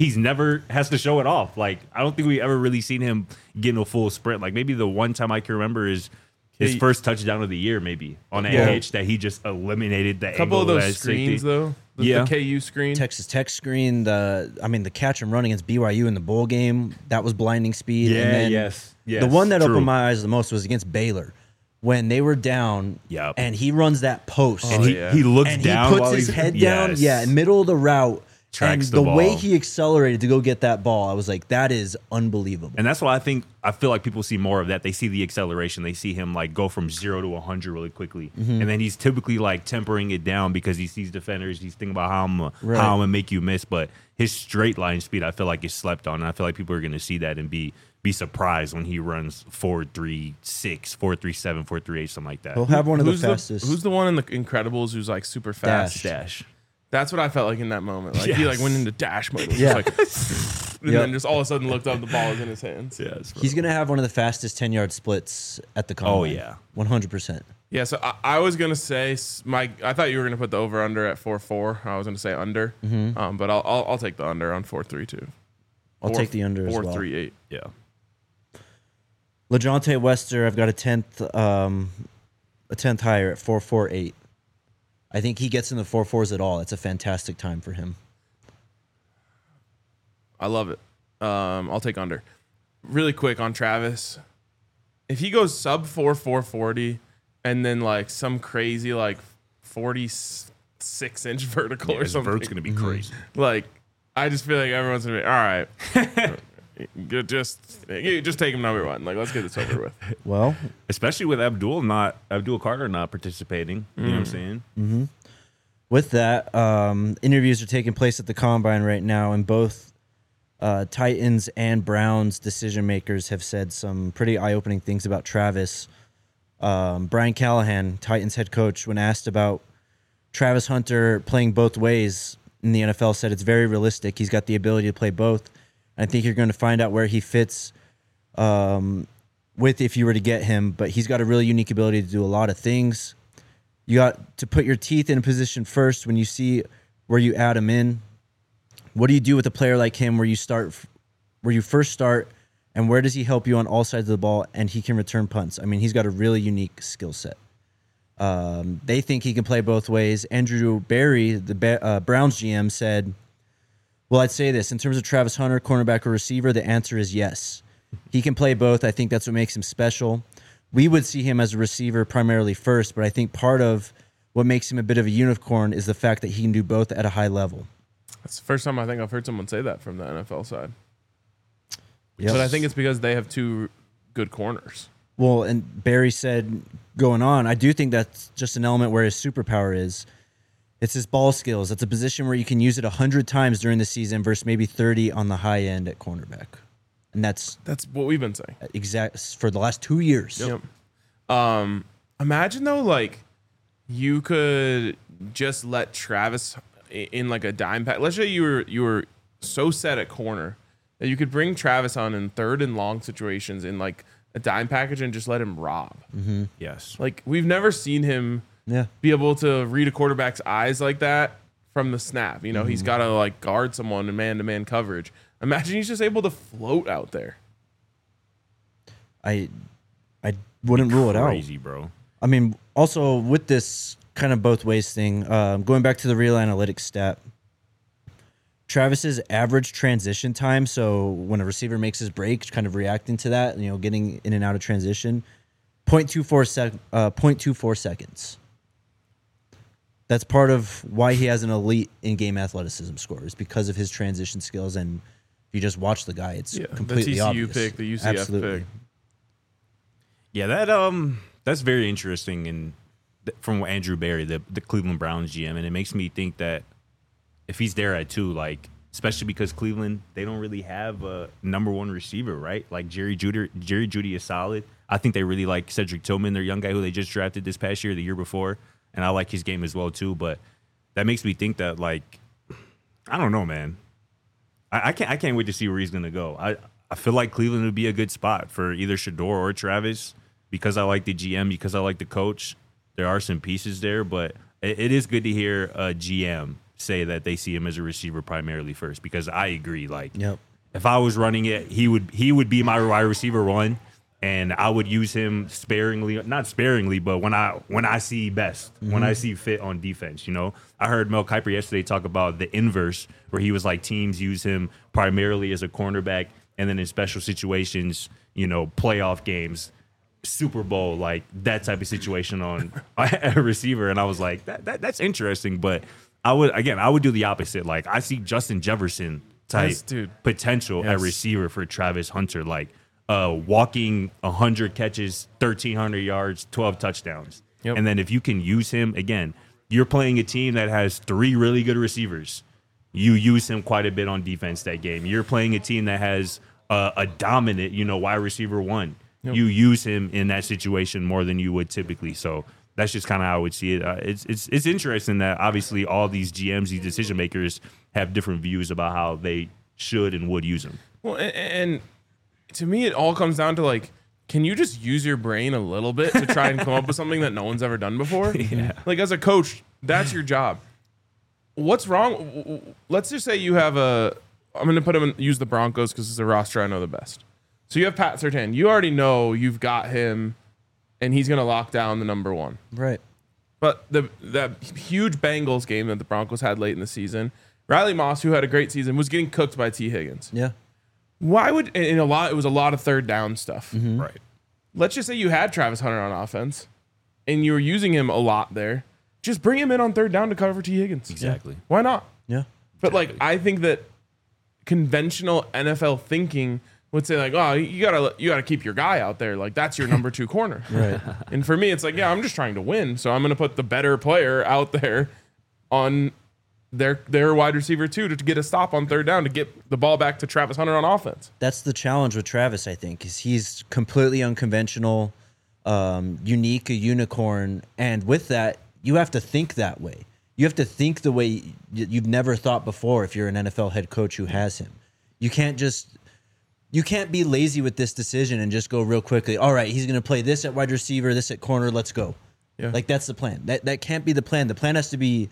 has to show it off. Like, I don't think we ever really seen him get in a full sprint. Like, maybe the one time I can remember is his first touchdown of the year, maybe on a hitch that he just eliminated the A couple of angle those as safety. screens though. The KU screen. Texas Tech screen, the catch and run against BYU in the bowl game, that was blinding speed. Yeah, and then yes, the one that true. opened my eyes the most was against Baylor when they were down. Yep. And he runs that post. And yeah. he looks and down he puts while his he's- head down, Yes. middle of the route. Tracks and the way ball. he accelerated to go get that ball, I was like, that is unbelievable. And that's why I feel like people see more of that. They see the acceleration. They see him like go from 0 to 100 really quickly. Mm-hmm. And then he's typically like tempering it down because he sees defenders. He's thinking about how I'm going to make you miss. But his straight line speed, I feel like is slept on. And I feel like people are going to see that and be surprised when he runs 4.36, 4.37, 4.38, something like that. He'll have one of the Who's fastest. who's the one in the Incredibles who's like super fast? Dash. That's what I felt like in that moment. Like he like went into dash mode. It was Yeah. just like, and Yep. then just all of a sudden looked up, the ball was in his hands. Yes. He's going to have one of the fastest 10-yard splits at the combine. Oh, yeah. 100%. Yeah, so I was gonna say I thought you were gonna put the over under at 4.4. I was gonna say under, but I'll take the under on 4.32. I'll take the under as well. 4.38. Yeah. LeJounte Wester, I've got a 10th higher at 4.48. I think he gets in the 4.4s at all. It's a fantastic time for him. I love it. I'll take under. Really quick on Travis, if he goes sub 4.40 and then like some crazy like 46-inch vertical or His something, vert's going to be crazy. like I just feel like everyone's gonna be all right. Just take him number one. Like, let's get this over with. Well, Especially with Abdul Carter not participating. You know what I'm saying? with that, interviews are taking place at the Combine right now, and both Titans and Browns decision makers have said some pretty eye-opening things about Travis. Brian Callahan, Titans head coach, when asked about Travis Hunter playing both ways in the NFL, said it's very realistic. He's got the ability to play both. I think you're going to find out where he fits with if you were to get him, but he's got a really unique ability to do a lot of things. You got to put your teeth in a position first when you see where you add him in. What do you do with a player like him where you first start, and where does he help you on all sides of the ball, and he can return punts? I mean, he's got a really unique skill set. They think he can play both ways. Andrew Berry, the Browns GM, said, well, I'd say this. In terms of Travis Hunter, cornerback or receiver, the answer is yes. He can play both. I think that's what makes him special. We would see him as a receiver primarily first, but I think part of what makes him a bit of a unicorn is the fact that he can do both at a high level. That's the first time I think I've heard someone say that from the NFL side. Yep. But I think it's because they have two good corners. Well, and Barry said, going on, I do think that's just an element where his superpower is. It's his ball skills. It's a position where you can use it 100 times during the season versus maybe 30 on the high end at cornerback. And that's what we've been saying. Exact for the last 2 years. Yep. Imagine though, like you could just let Travis in like a dime pack. Let's say you were so set at corner that you could bring Travis on in third and long situations in like a dime package and just let him rob. Mm-hmm. Yes. Like we've never seen him be able to read a quarterback's eyes like that from the snap. You know, he's got to like guard someone in man-to-man coverage. Imagine he's just able to float out there. I wouldn't rule it out. Crazy, bro. I mean, also with this kind of both ways thing, going back to the real analytics stat, Travis's average transition time, so when a receiver makes his break, kind of reacting to that, you know, getting in and out of transition, 0.24 seconds. That's part of why he has an elite in-game athleticism score, is because of his transition skills. And if you just watch the guy, it's completely the TCU obvious. pick, the UCF Absolutely. pick. Yeah, that's very interesting, and from Andrew Berry, the Cleveland Browns GM, and it makes me think that if he's there at 2, like especially because Cleveland, they don't really have a number one receiver, right? Like Jerry Jeudy is solid. I think they really like Cedric Tillman, their young guy who they just drafted this past year, the year before, and I like his game as well too. But that makes me think that, like, I don't know, man. I can't wait to see where he's gonna go. I feel like Cleveland would be a good spot for either Shedeur or Travis because I like the GM, because I like the coach. There are some pieces there, but it is good to hear a GM say that they see him as a receiver primarily first, because I agree. Like, if I was running it, he would be my wide receiver 1, and I would use him sparingly, not sparingly, but when I see best, when I see fit on defense. You know, I heard Mel Kiper yesterday talk about the inverse, where he was like teams use him primarily as a cornerback, and then in special situations, you know, playoff games, Super Bowl, like that type of situation on a receiver. And I was like, that's interesting, but I would do the opposite. Like, I see Justin Jefferson type potential at receiver for Travis Hunter, like walking 100 catches, 1,300 yards, 12 touchdowns. And then if you can use him, again, you're playing a team that has 3 really good receivers. You use him quite a bit on defense that game. You're playing a team that has a dominant, you know, wide receiver 1. You use him in that situation more than you would typically. So that's just kind of how I would see it. It's interesting that obviously all these GMs, these decision makers, have different views about how they should and would use him. Well, and to me, it all comes down to, like, can you just use your brain a little bit to try and come up with something that no one's ever done before? Like, as a coach, that's your job. What's wrong? Let's just say you have I'm going to use the Broncos because it's a roster I know the best. So you have Pat Surtain. You already know you've got him, and he's going to lock down the number 1. Right. But that huge Bengals game that the Broncos had late in the season, Riley Moss, who had a great season, was getting cooked by T. Higgins. Yeah. Why would it was a lot of third down stuff. Right. Let's just say you had Travis Hunter on offense, and you were using him a lot there. Just bring him in on third down to cover T. Higgins. Exactly. Why not? Yeah. But like, I think that conventional NFL thinking would say like, oh, you gotta keep your guy out there. Like that's your number 2 corner. Right. And for me, it's like, yeah, I'm just trying to win. So I'm going to put the better player out there on their wide receiver 2 to get a stop on 3rd down to get the ball back to Travis Hunter on offense. That's the challenge with Travis, I think, is he's completely unconventional, unique, a unicorn. And with that, you have to think that way. You have to think the way you've never thought before if you're an NFL head coach who has him. You can't be lazy with this decision and just go real quickly. All right, he's going to play this at wide receiver, this at corner. Let's go. Yeah. Like that's the plan. That can't be the plan. The plan has to be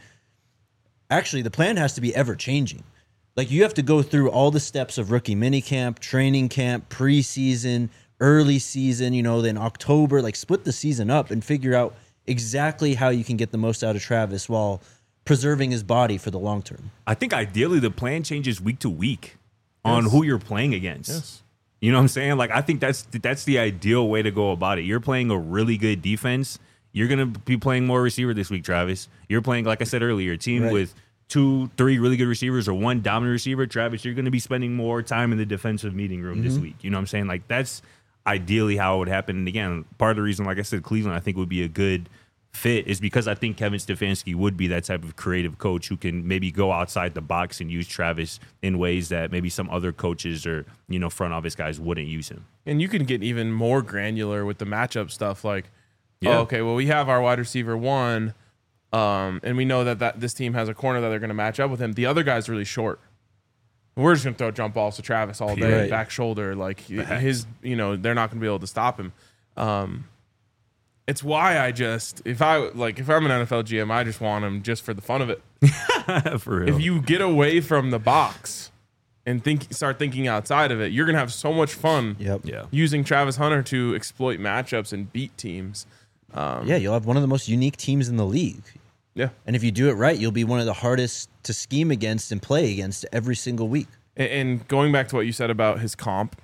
ever changing. Like you have to go through all the steps of rookie minicamp, training camp, preseason, early season, then October, like split the season up and figure out exactly how you can get the most out of Travis while preserving his body for the long term. I think ideally the plan changes week to week on who you're playing against. Yes. You know what I'm saying? Like I think that's the ideal way to go about it. You're playing a really good defense. You're gonna be playing more receiver this week, Travis. You're playing, like I said earlier, a team with 2, 3 really good receivers or 1 dominant receiver. Travis, you're gonna be spending more time in the defensive meeting room this week. You know what I'm saying? Like that's ideally how it would happen. And again, part of the reason, like I said, Cleveland I think would be a good fit is because I think Kevin Stefanski would be that type of creative coach who can maybe go outside the box and use Travis in ways that maybe some other coaches or front office guys wouldn't use him. And you can get even more granular with the matchup stuff. Like, okay, well, we have our wide receiver 1, and we know that this team has a corner that they're going to match up with him. The other guy's really short. We're just going to throw jump balls to Travis all day, back shoulder. Like his, they're not going to be able to stop him. It's why if I'm an NFL GM, I just want him just for the fun of it. For real. If you get away from the box and start thinking outside of it, you're gonna have so much fun. Yeah. Using Travis Hunter to exploit matchups and beat teams. You'll have one of the most unique teams in the league. Yeah. And if you do it right, you'll be one of the hardest to scheme against and play against every single week. And going back to what you said about his comp,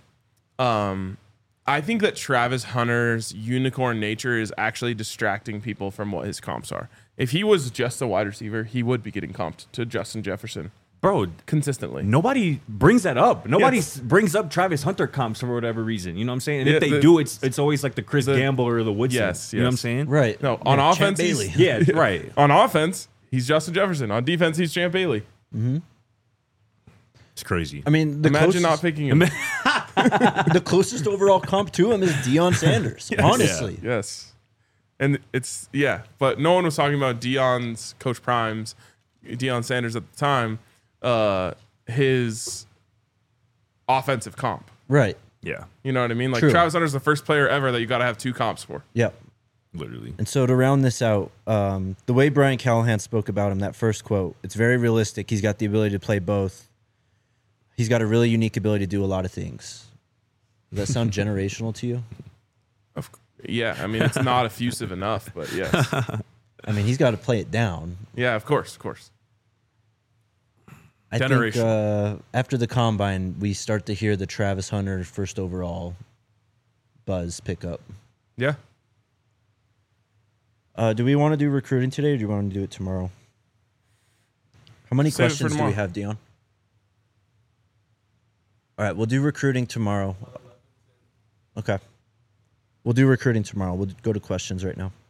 I think that Travis Hunter's unicorn nature is actually distracting people from what his comps are. If he was just a wide receiver, he would be getting comped to Justin Jefferson. Bro, consistently. Nobody brings that up. Nobody brings up Travis Hunter comps for whatever reason. You know what I'm saying? And if they do, it's always like the Chris Gamble or the Woodson. Yes, you know what I'm saying? Right. No, on offense, right. On offense, he's Justin Jefferson. On defense, he's Champ Bailey. Mm-hmm. It's crazy. I mean, imagine not picking him. The closest overall comp to him is Deion Sanders. Yes. Honestly, yes. And but no one was talking about Deion's Coach Prime's, Deion Sanders at the time, his offensive comp. Right. Yeah. You know what I mean? Like True. Travis Hunter's the first player ever that you got to have 2 comps for. Yep. Literally. And so to round this out, the way Brian Callahan spoke about him, that first quote, it's very realistic. He's got the ability to play both. He's got a really unique ability to do a lot of things. Does that sound generational to you? Yeah, I mean, it's not effusive enough, but yes. I mean, he's got to play it down. Yeah, of course. I think after the combine, we start to hear the Travis Hunter first overall buzz pick up. Yeah. Do we want to do recruiting today, or do you want to do it tomorrow? How many questions do we have, Dion? All right, we'll do recruiting tomorrow. Okay. We'll do recruiting tomorrow. We'll go to questions right now.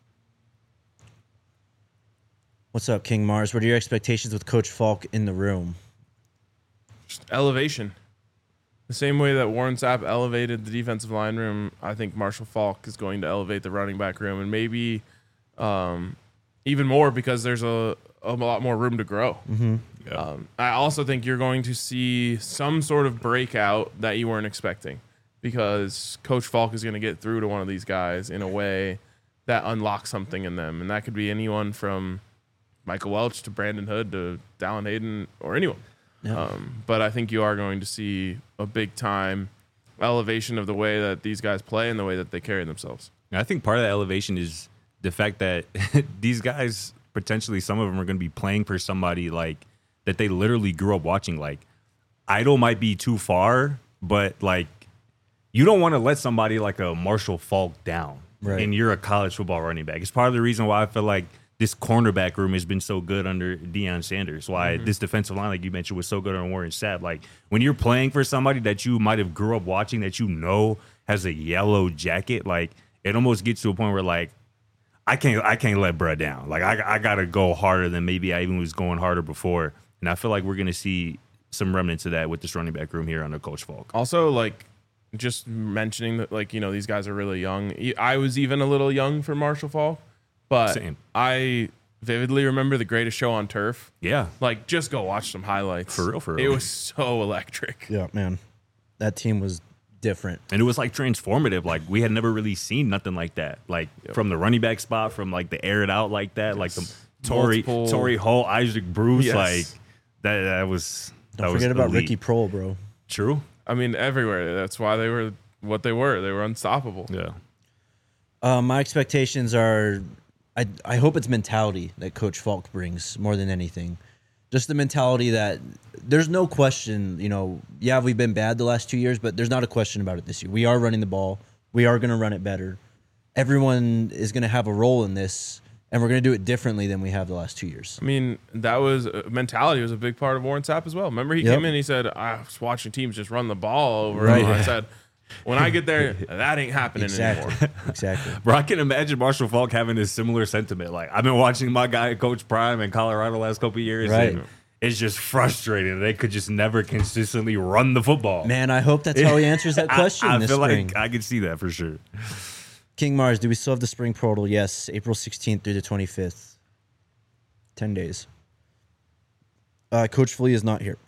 What's up, King Mars? What are your expectations with Coach Falk in the room? Just elevation. The same way that Warren Sapp elevated the defensive line room, I think Marshall Falk is going to elevate the running back room, and maybe even more because there's a lot more room to grow. Mm-hmm. Yeah. I also think you're going to see some sort of breakout that you weren't expecting because Coach Falk is going to get through to one of these guys in a way that unlocks something in them. And that could be anyone from Michael Welch to Brandon Hood to Dallin Hayden or anyone. Yeah. But I think you are going to see a big time elevation of the way that these guys play and the way that they carry themselves. I think part of that elevation is the fact that these guys, potentially some of them are going to be playing for somebody like that they literally grew up watching. Like, idol might be too far, but like you don't want to let somebody like a Marshall Falk down. Right. And you're a college football running back. It's part of the reason why I feel like this cornerback room has been so good under Deion Sanders. Why this defensive line, like you mentioned, was so good on Warren Sapp. Like when you're playing for somebody that you might have grew up watching, that you know has a yellow jacket, like it almost gets to a point where like I can't let Brett down. Like I gotta go harder than maybe I even was going harder before. And I feel like we're gonna see some remnants of that with this running back room here under Coach Falk. Also, like, just mentioning that, like, you know, these guys are really young. I was even a little young for Marshall Falk, but Same. I vividly remember The Greatest Show on Turf. Yeah. Like, just go watch some highlights. For real. It was so electric. Yeah, man. That team was different. And it was like transformative. Like we had never really seen nothing like that. Like from the running back spot, from like the air it out like that, like the Torrey Holt, Isaac Bruce, like that was. Don't forget about Ricky Prohl, bro. True. I mean, everywhere. That's why they were what they were. They were unstoppable. Yeah. My expectations are, I hope it's mentality that Coach Falk brings more than anything. Just the mentality that there's no question, you know, yeah, we've been bad the last 2 years, but there's not a question about it this year. We are running the ball. We are going to run it better. Everyone is going to have a role in this, and we're going to do it differently than we have the last 2 years. I mean, that was mentality was a big part of Warren Sapp as well. Remember, he came in and he said, I was watching teams just run the ball over. Right. I said, when I get there, that ain't happening anymore. Exactly. Bro, I can imagine Marshall Falk having a similar sentiment. Like, I've been watching my guy, Coach Prime, in Colorado the last couple of years. Right. And it's just frustrating. They could just never consistently run the football. Man, I hope that's how he answers that question I this feel spring. like I could see that for sure. King Mars, do we still have the spring portal? Yes, April 16th through the 25th. 10 days. Coach Flea is not here.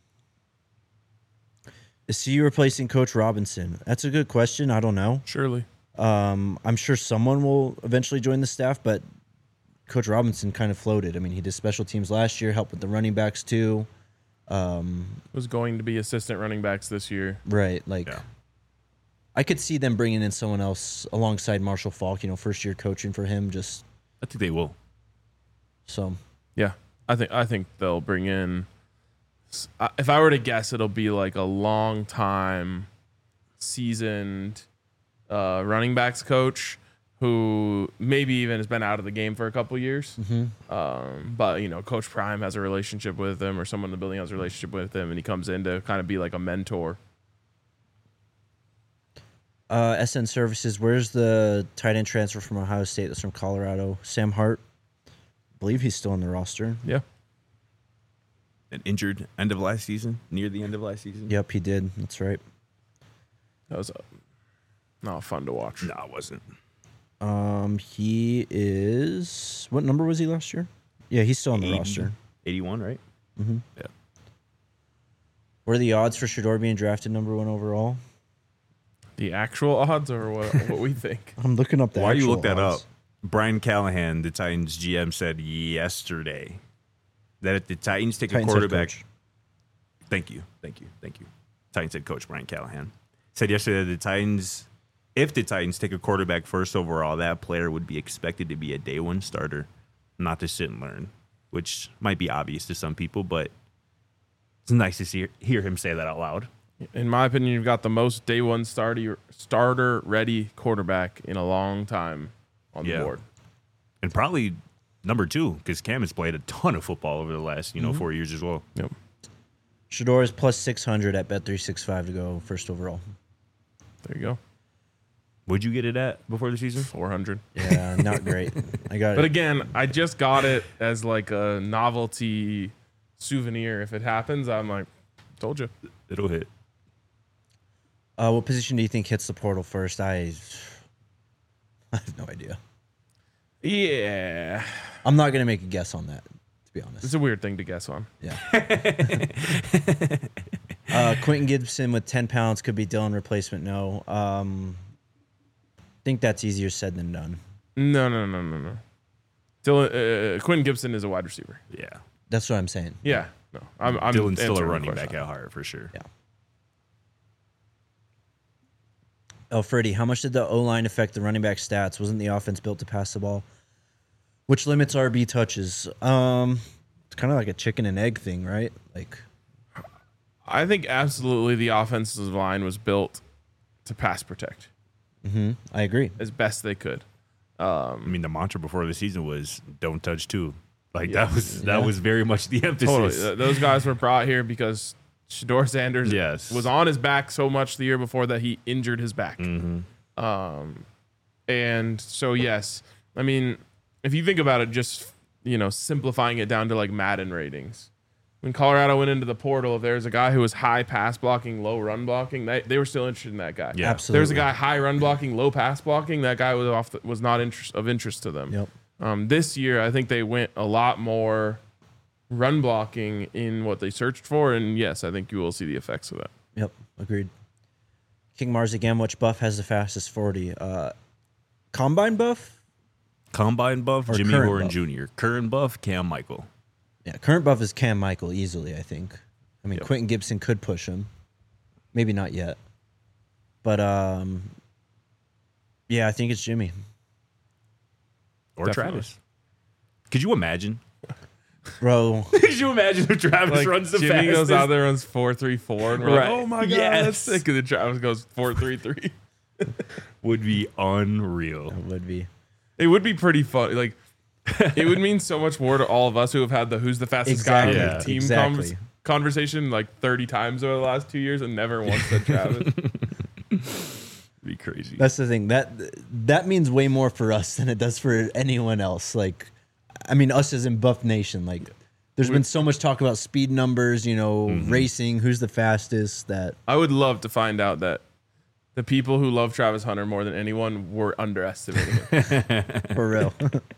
Is CU replacing Coach Robinson? That's a good question. I don't know. Surely. I'm sure someone will eventually join the staff, but Coach Robinson kind of floated. I mean, he did special teams last year, helped with the running backs too. Was going to be assistant running backs this year. Right. Like, Yeah. I could see them bringing in someone else alongside Marshall Falk, you know, first year coaching for him. Just I think they will. so. Yeah, I think they'll bring in. If I were to guess, it'll be like a long time, seasoned running backs coach who maybe even has been out of the game for a couple years. But you know, Coach Prime has a relationship with him, or someone in the building has a relationship with him, and he comes in to kind of be like a mentor. SN Services, where's the tight end transfer from Ohio State that's from Colorado? Sam Hart. I believe he's still on the roster. Yeah, An injured end of last season, near the end of last season. Yep, he did. That's right. that was not fun to watch. No, it wasn't. He is, what number was he last year? Yeah, he's still on the roster. 81, right? Yeah. What are the odds for Shedeur being drafted number 1 overall? The actual odds, or what we think? I'm looking up the Why you actual look that odds. up? Brian Callahan, the Titans GM, said yesterday that if the Titans take Titans a head quarterback, coach. Thank you. Titans head coach Brian Callahan said yesterday that the Titans, if the Titans take a quarterback first overall, that player would be expected to be a day one starter, not to sit and learn, which might be obvious to some people, but it's nice to hear him say that out loud. In my opinion, you've got the most day one starter ready quarterback in a long time on the board. And probably number 2, because Cam has played a ton of football over the last 4 years as well. Yep. Shedeur is plus 600 at Bet365 to go first overall. There you go. Would you get it at before the season? 400. Yeah, not great. I got But it. again, I just got it as like a novelty souvenir. If it happens, I'm like, told you. It'll hit. What position do you think hits the portal first? I have no idea. Yeah. I'm not going to make a guess on that, to be honest. It's a weird thing to guess on. Yeah. Quentin Gibson with 10 pounds could be Dylan replacement. No. Think that's easier said than done. No. Dylan, Quentin Gibson is a wide receiver. Yeah. That's what I'm saying. Yeah. No. I'm Dylan's still a answering the running question. back at heart for sure. Yeah. Freddie, how much did the O-line affect the running back stats? Wasn't the offense built to pass the ball? Which limits RB touches? It's kind of like a chicken and egg thing, right? Like, I think absolutely the offensive line was built to pass protect I agree. as best they could. I mean, the mantra before the season was "Don't touch two." Like that was very much the emphasis. Totally. Those guys were brought here because Shedeur Sanders was on his back so much the year before that he injured his back. And so, yes, I mean, if you think about it, just, simplifying it down to like Madden ratings. When Colorado went into the portal, if there's a guy who was high pass blocking, low run blocking, they were still interested in that guy. Yeah. Absolutely. There's a guy high run blocking, low pass blocking. That guy was not of interest to them. Yep. This year, I think they went a lot more run blocking in what they searched for, and yes, I think you will see the effects of that. Yep. Agreed. King Mars again. Which buff has the fastest 40? Combine buff? Combine buff, Or Jimmy current Horn buff? Jr. Current buff, Cam Michael. Yeah, current buff is Cam Michael easily, I think. I mean, Quentin Gibson could push him. Maybe not yet. But, yeah, I think it's Jimmy. Or Definitely. Travis. Could you imagine? Bro, Could you imagine if Travis runs the Jimmy fastest? goes out there, runs 4.34, and we're like, Right. oh my god, Yes. that's sick. And then Travis goes 4.33. Would be unreal. it would be. It would be pretty fun. Like, it would mean so much more to all of us who have had the who's the fastest guy Exactly. on Yeah. the team Exactly. conversation like 30 times over the last 2 years and never once said Travis. Be crazy. That's the thing. That means way more for us than it does for anyone else. Like, I mean, us as in Buff Nation. Like, there's been so much talk about speed numbers, racing, who's the fastest, that I would love to find out that the people who love Travis Hunter more than anyone were underestimating it. for real.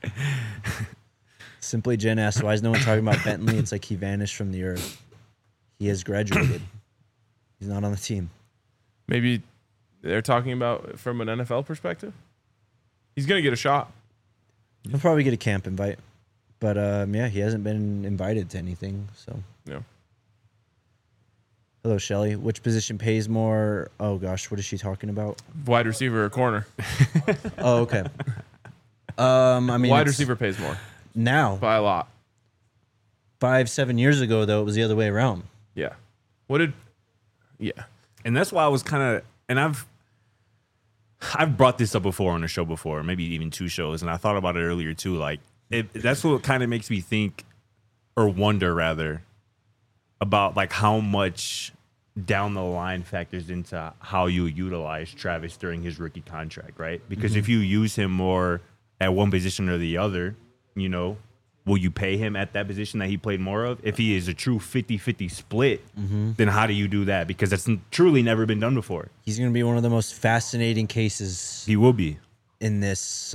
Simply Jen asked, why is no one talking about Bentley? It's like he vanished from the earth. He has graduated. He's not on the team. Maybe they're talking about it from an NFL perspective. He's going to get a shot. He'll probably get a camp invite. But, yeah, he hasn't been invited to anything, so. Yeah. Hello, Shelly. Which position pays more? Oh, gosh, what is she talking about? Wide receiver or corner. Oh, okay. I mean, Wide it's receiver pays more now. by a lot. 5-7 years ago, though, it was the other way around. Yeah. Yeah. And that's why I was kind of, and I've brought this up before on the show before, maybe even 2 shows, and I thought about it earlier too. Like, that's what kind of makes me think, or wonder rather, about like how much down the line factors into how you utilize Travis during his rookie contract, right? Because if you use him more at one position or the other, will you pay him at that position that he played more of? If he is a true 50-50 split, then how do you do that? Because that's truly never been done before. He's going to be one of the most fascinating cases He will be. in this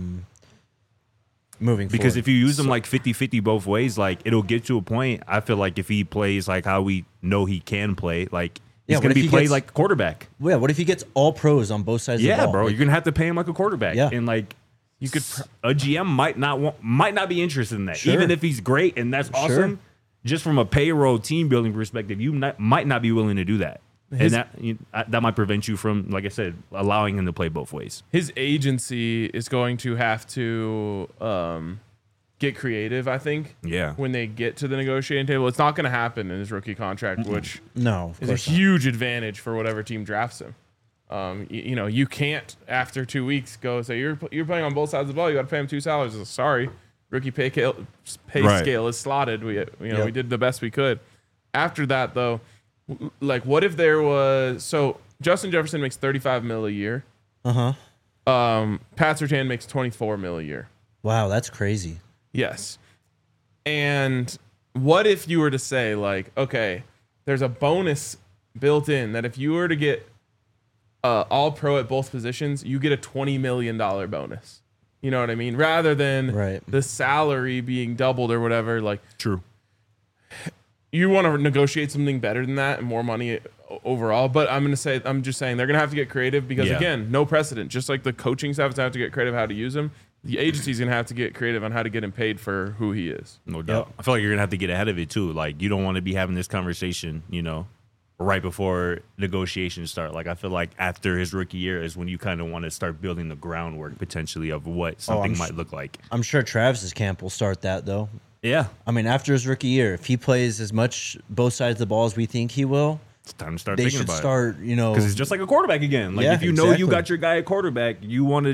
moving Because forward. if you use him like 50-50 both ways, like it'll get to a point, I feel like if he plays like how we know he can play, like Yeah, he's what going if to be he played gets- like a quarterback. Yeah, what if he gets all pros on both sides of the Yeah, ball? bro. Like, You're going to have to pay him like a quarterback. Yeah. And like you could, a GM might not be interested in that. Sure. Even if he's great and that's awesome, just from a payroll team building perspective, you might not be willing to do that. And that might prevent you from, like I said, allowing him to play both ways. His agency is going to have to get creative, I think. Yeah. When they get to the negotiating table. It's not going to happen in his rookie contract, which no, of is a course not. huge advantage for whatever team drafts him. You can't after 2 weeks go say you're playing on both sides of the ball. You got to pay him 2 salaries. Sorry, rookie pay scale is slotted. We we did the best we could. After that though, like what if there was Justin Jefferson makes $35 million a year. Uh-huh. Pat Surtain makes $24 million a year. Wow, that's crazy. Yes. And what if you were to say, like, okay, there's a bonus built in that if you were to get all pro at both positions, you get a $20 million bonus. You know what I mean? Rather than the salary being doubled or whatever. Like, True. you want to negotiate something better than that and more money overall. But I'm just saying they're going to have to get creative because, again, no precedent. Just like the coaching staff is going to have to get creative how to use him, the agency's going to have to get creative on how to get him paid for who he is. No doubt. I feel like you're going to have to get ahead of it too. Like you don't want to be having this conversation, right before negotiations start. Like I feel like after his rookie year is when you kind of want to start building the groundwork potentially of what something might look like. I'm sure Travis's camp will start that, though. Yeah. I mean, after his rookie year, if he plays as much both sides of the ball as we think he will, It's time to start they thinking should about start, because it's just like a quarterback again. Like Yeah, if you know you exactly. got your guy at quarterback, you want to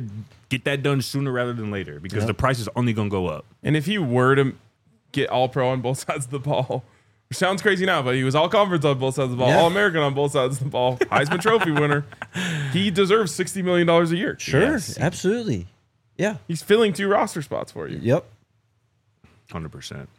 get that done sooner rather than later because the price is only going to go up. And if he were to get all pro on both sides of the ball, which sounds crazy now, but he was all conference on both sides of the ball, all American on both sides of the ball, Heisman Trophy winner. He deserves $60 million a year. Sure, Yes. absolutely. Yeah. He's filling 2 roster spots for you. Yep. 100%.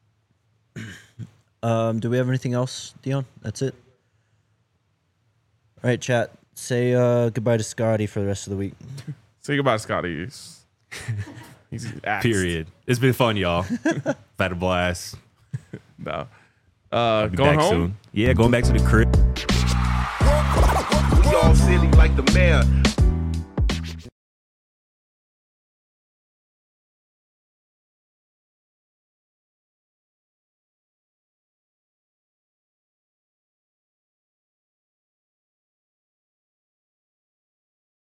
Do we have anything else, Dion? That's it. All right, chat. Say goodbye to Scotty for the rest of the week. Say goodbye, Scotty. He's axed. Period. It's been fun, y'all. I've had a blast. No. Be Going back home? soon. Yeah, going back to the crib. We all silly like the mayor.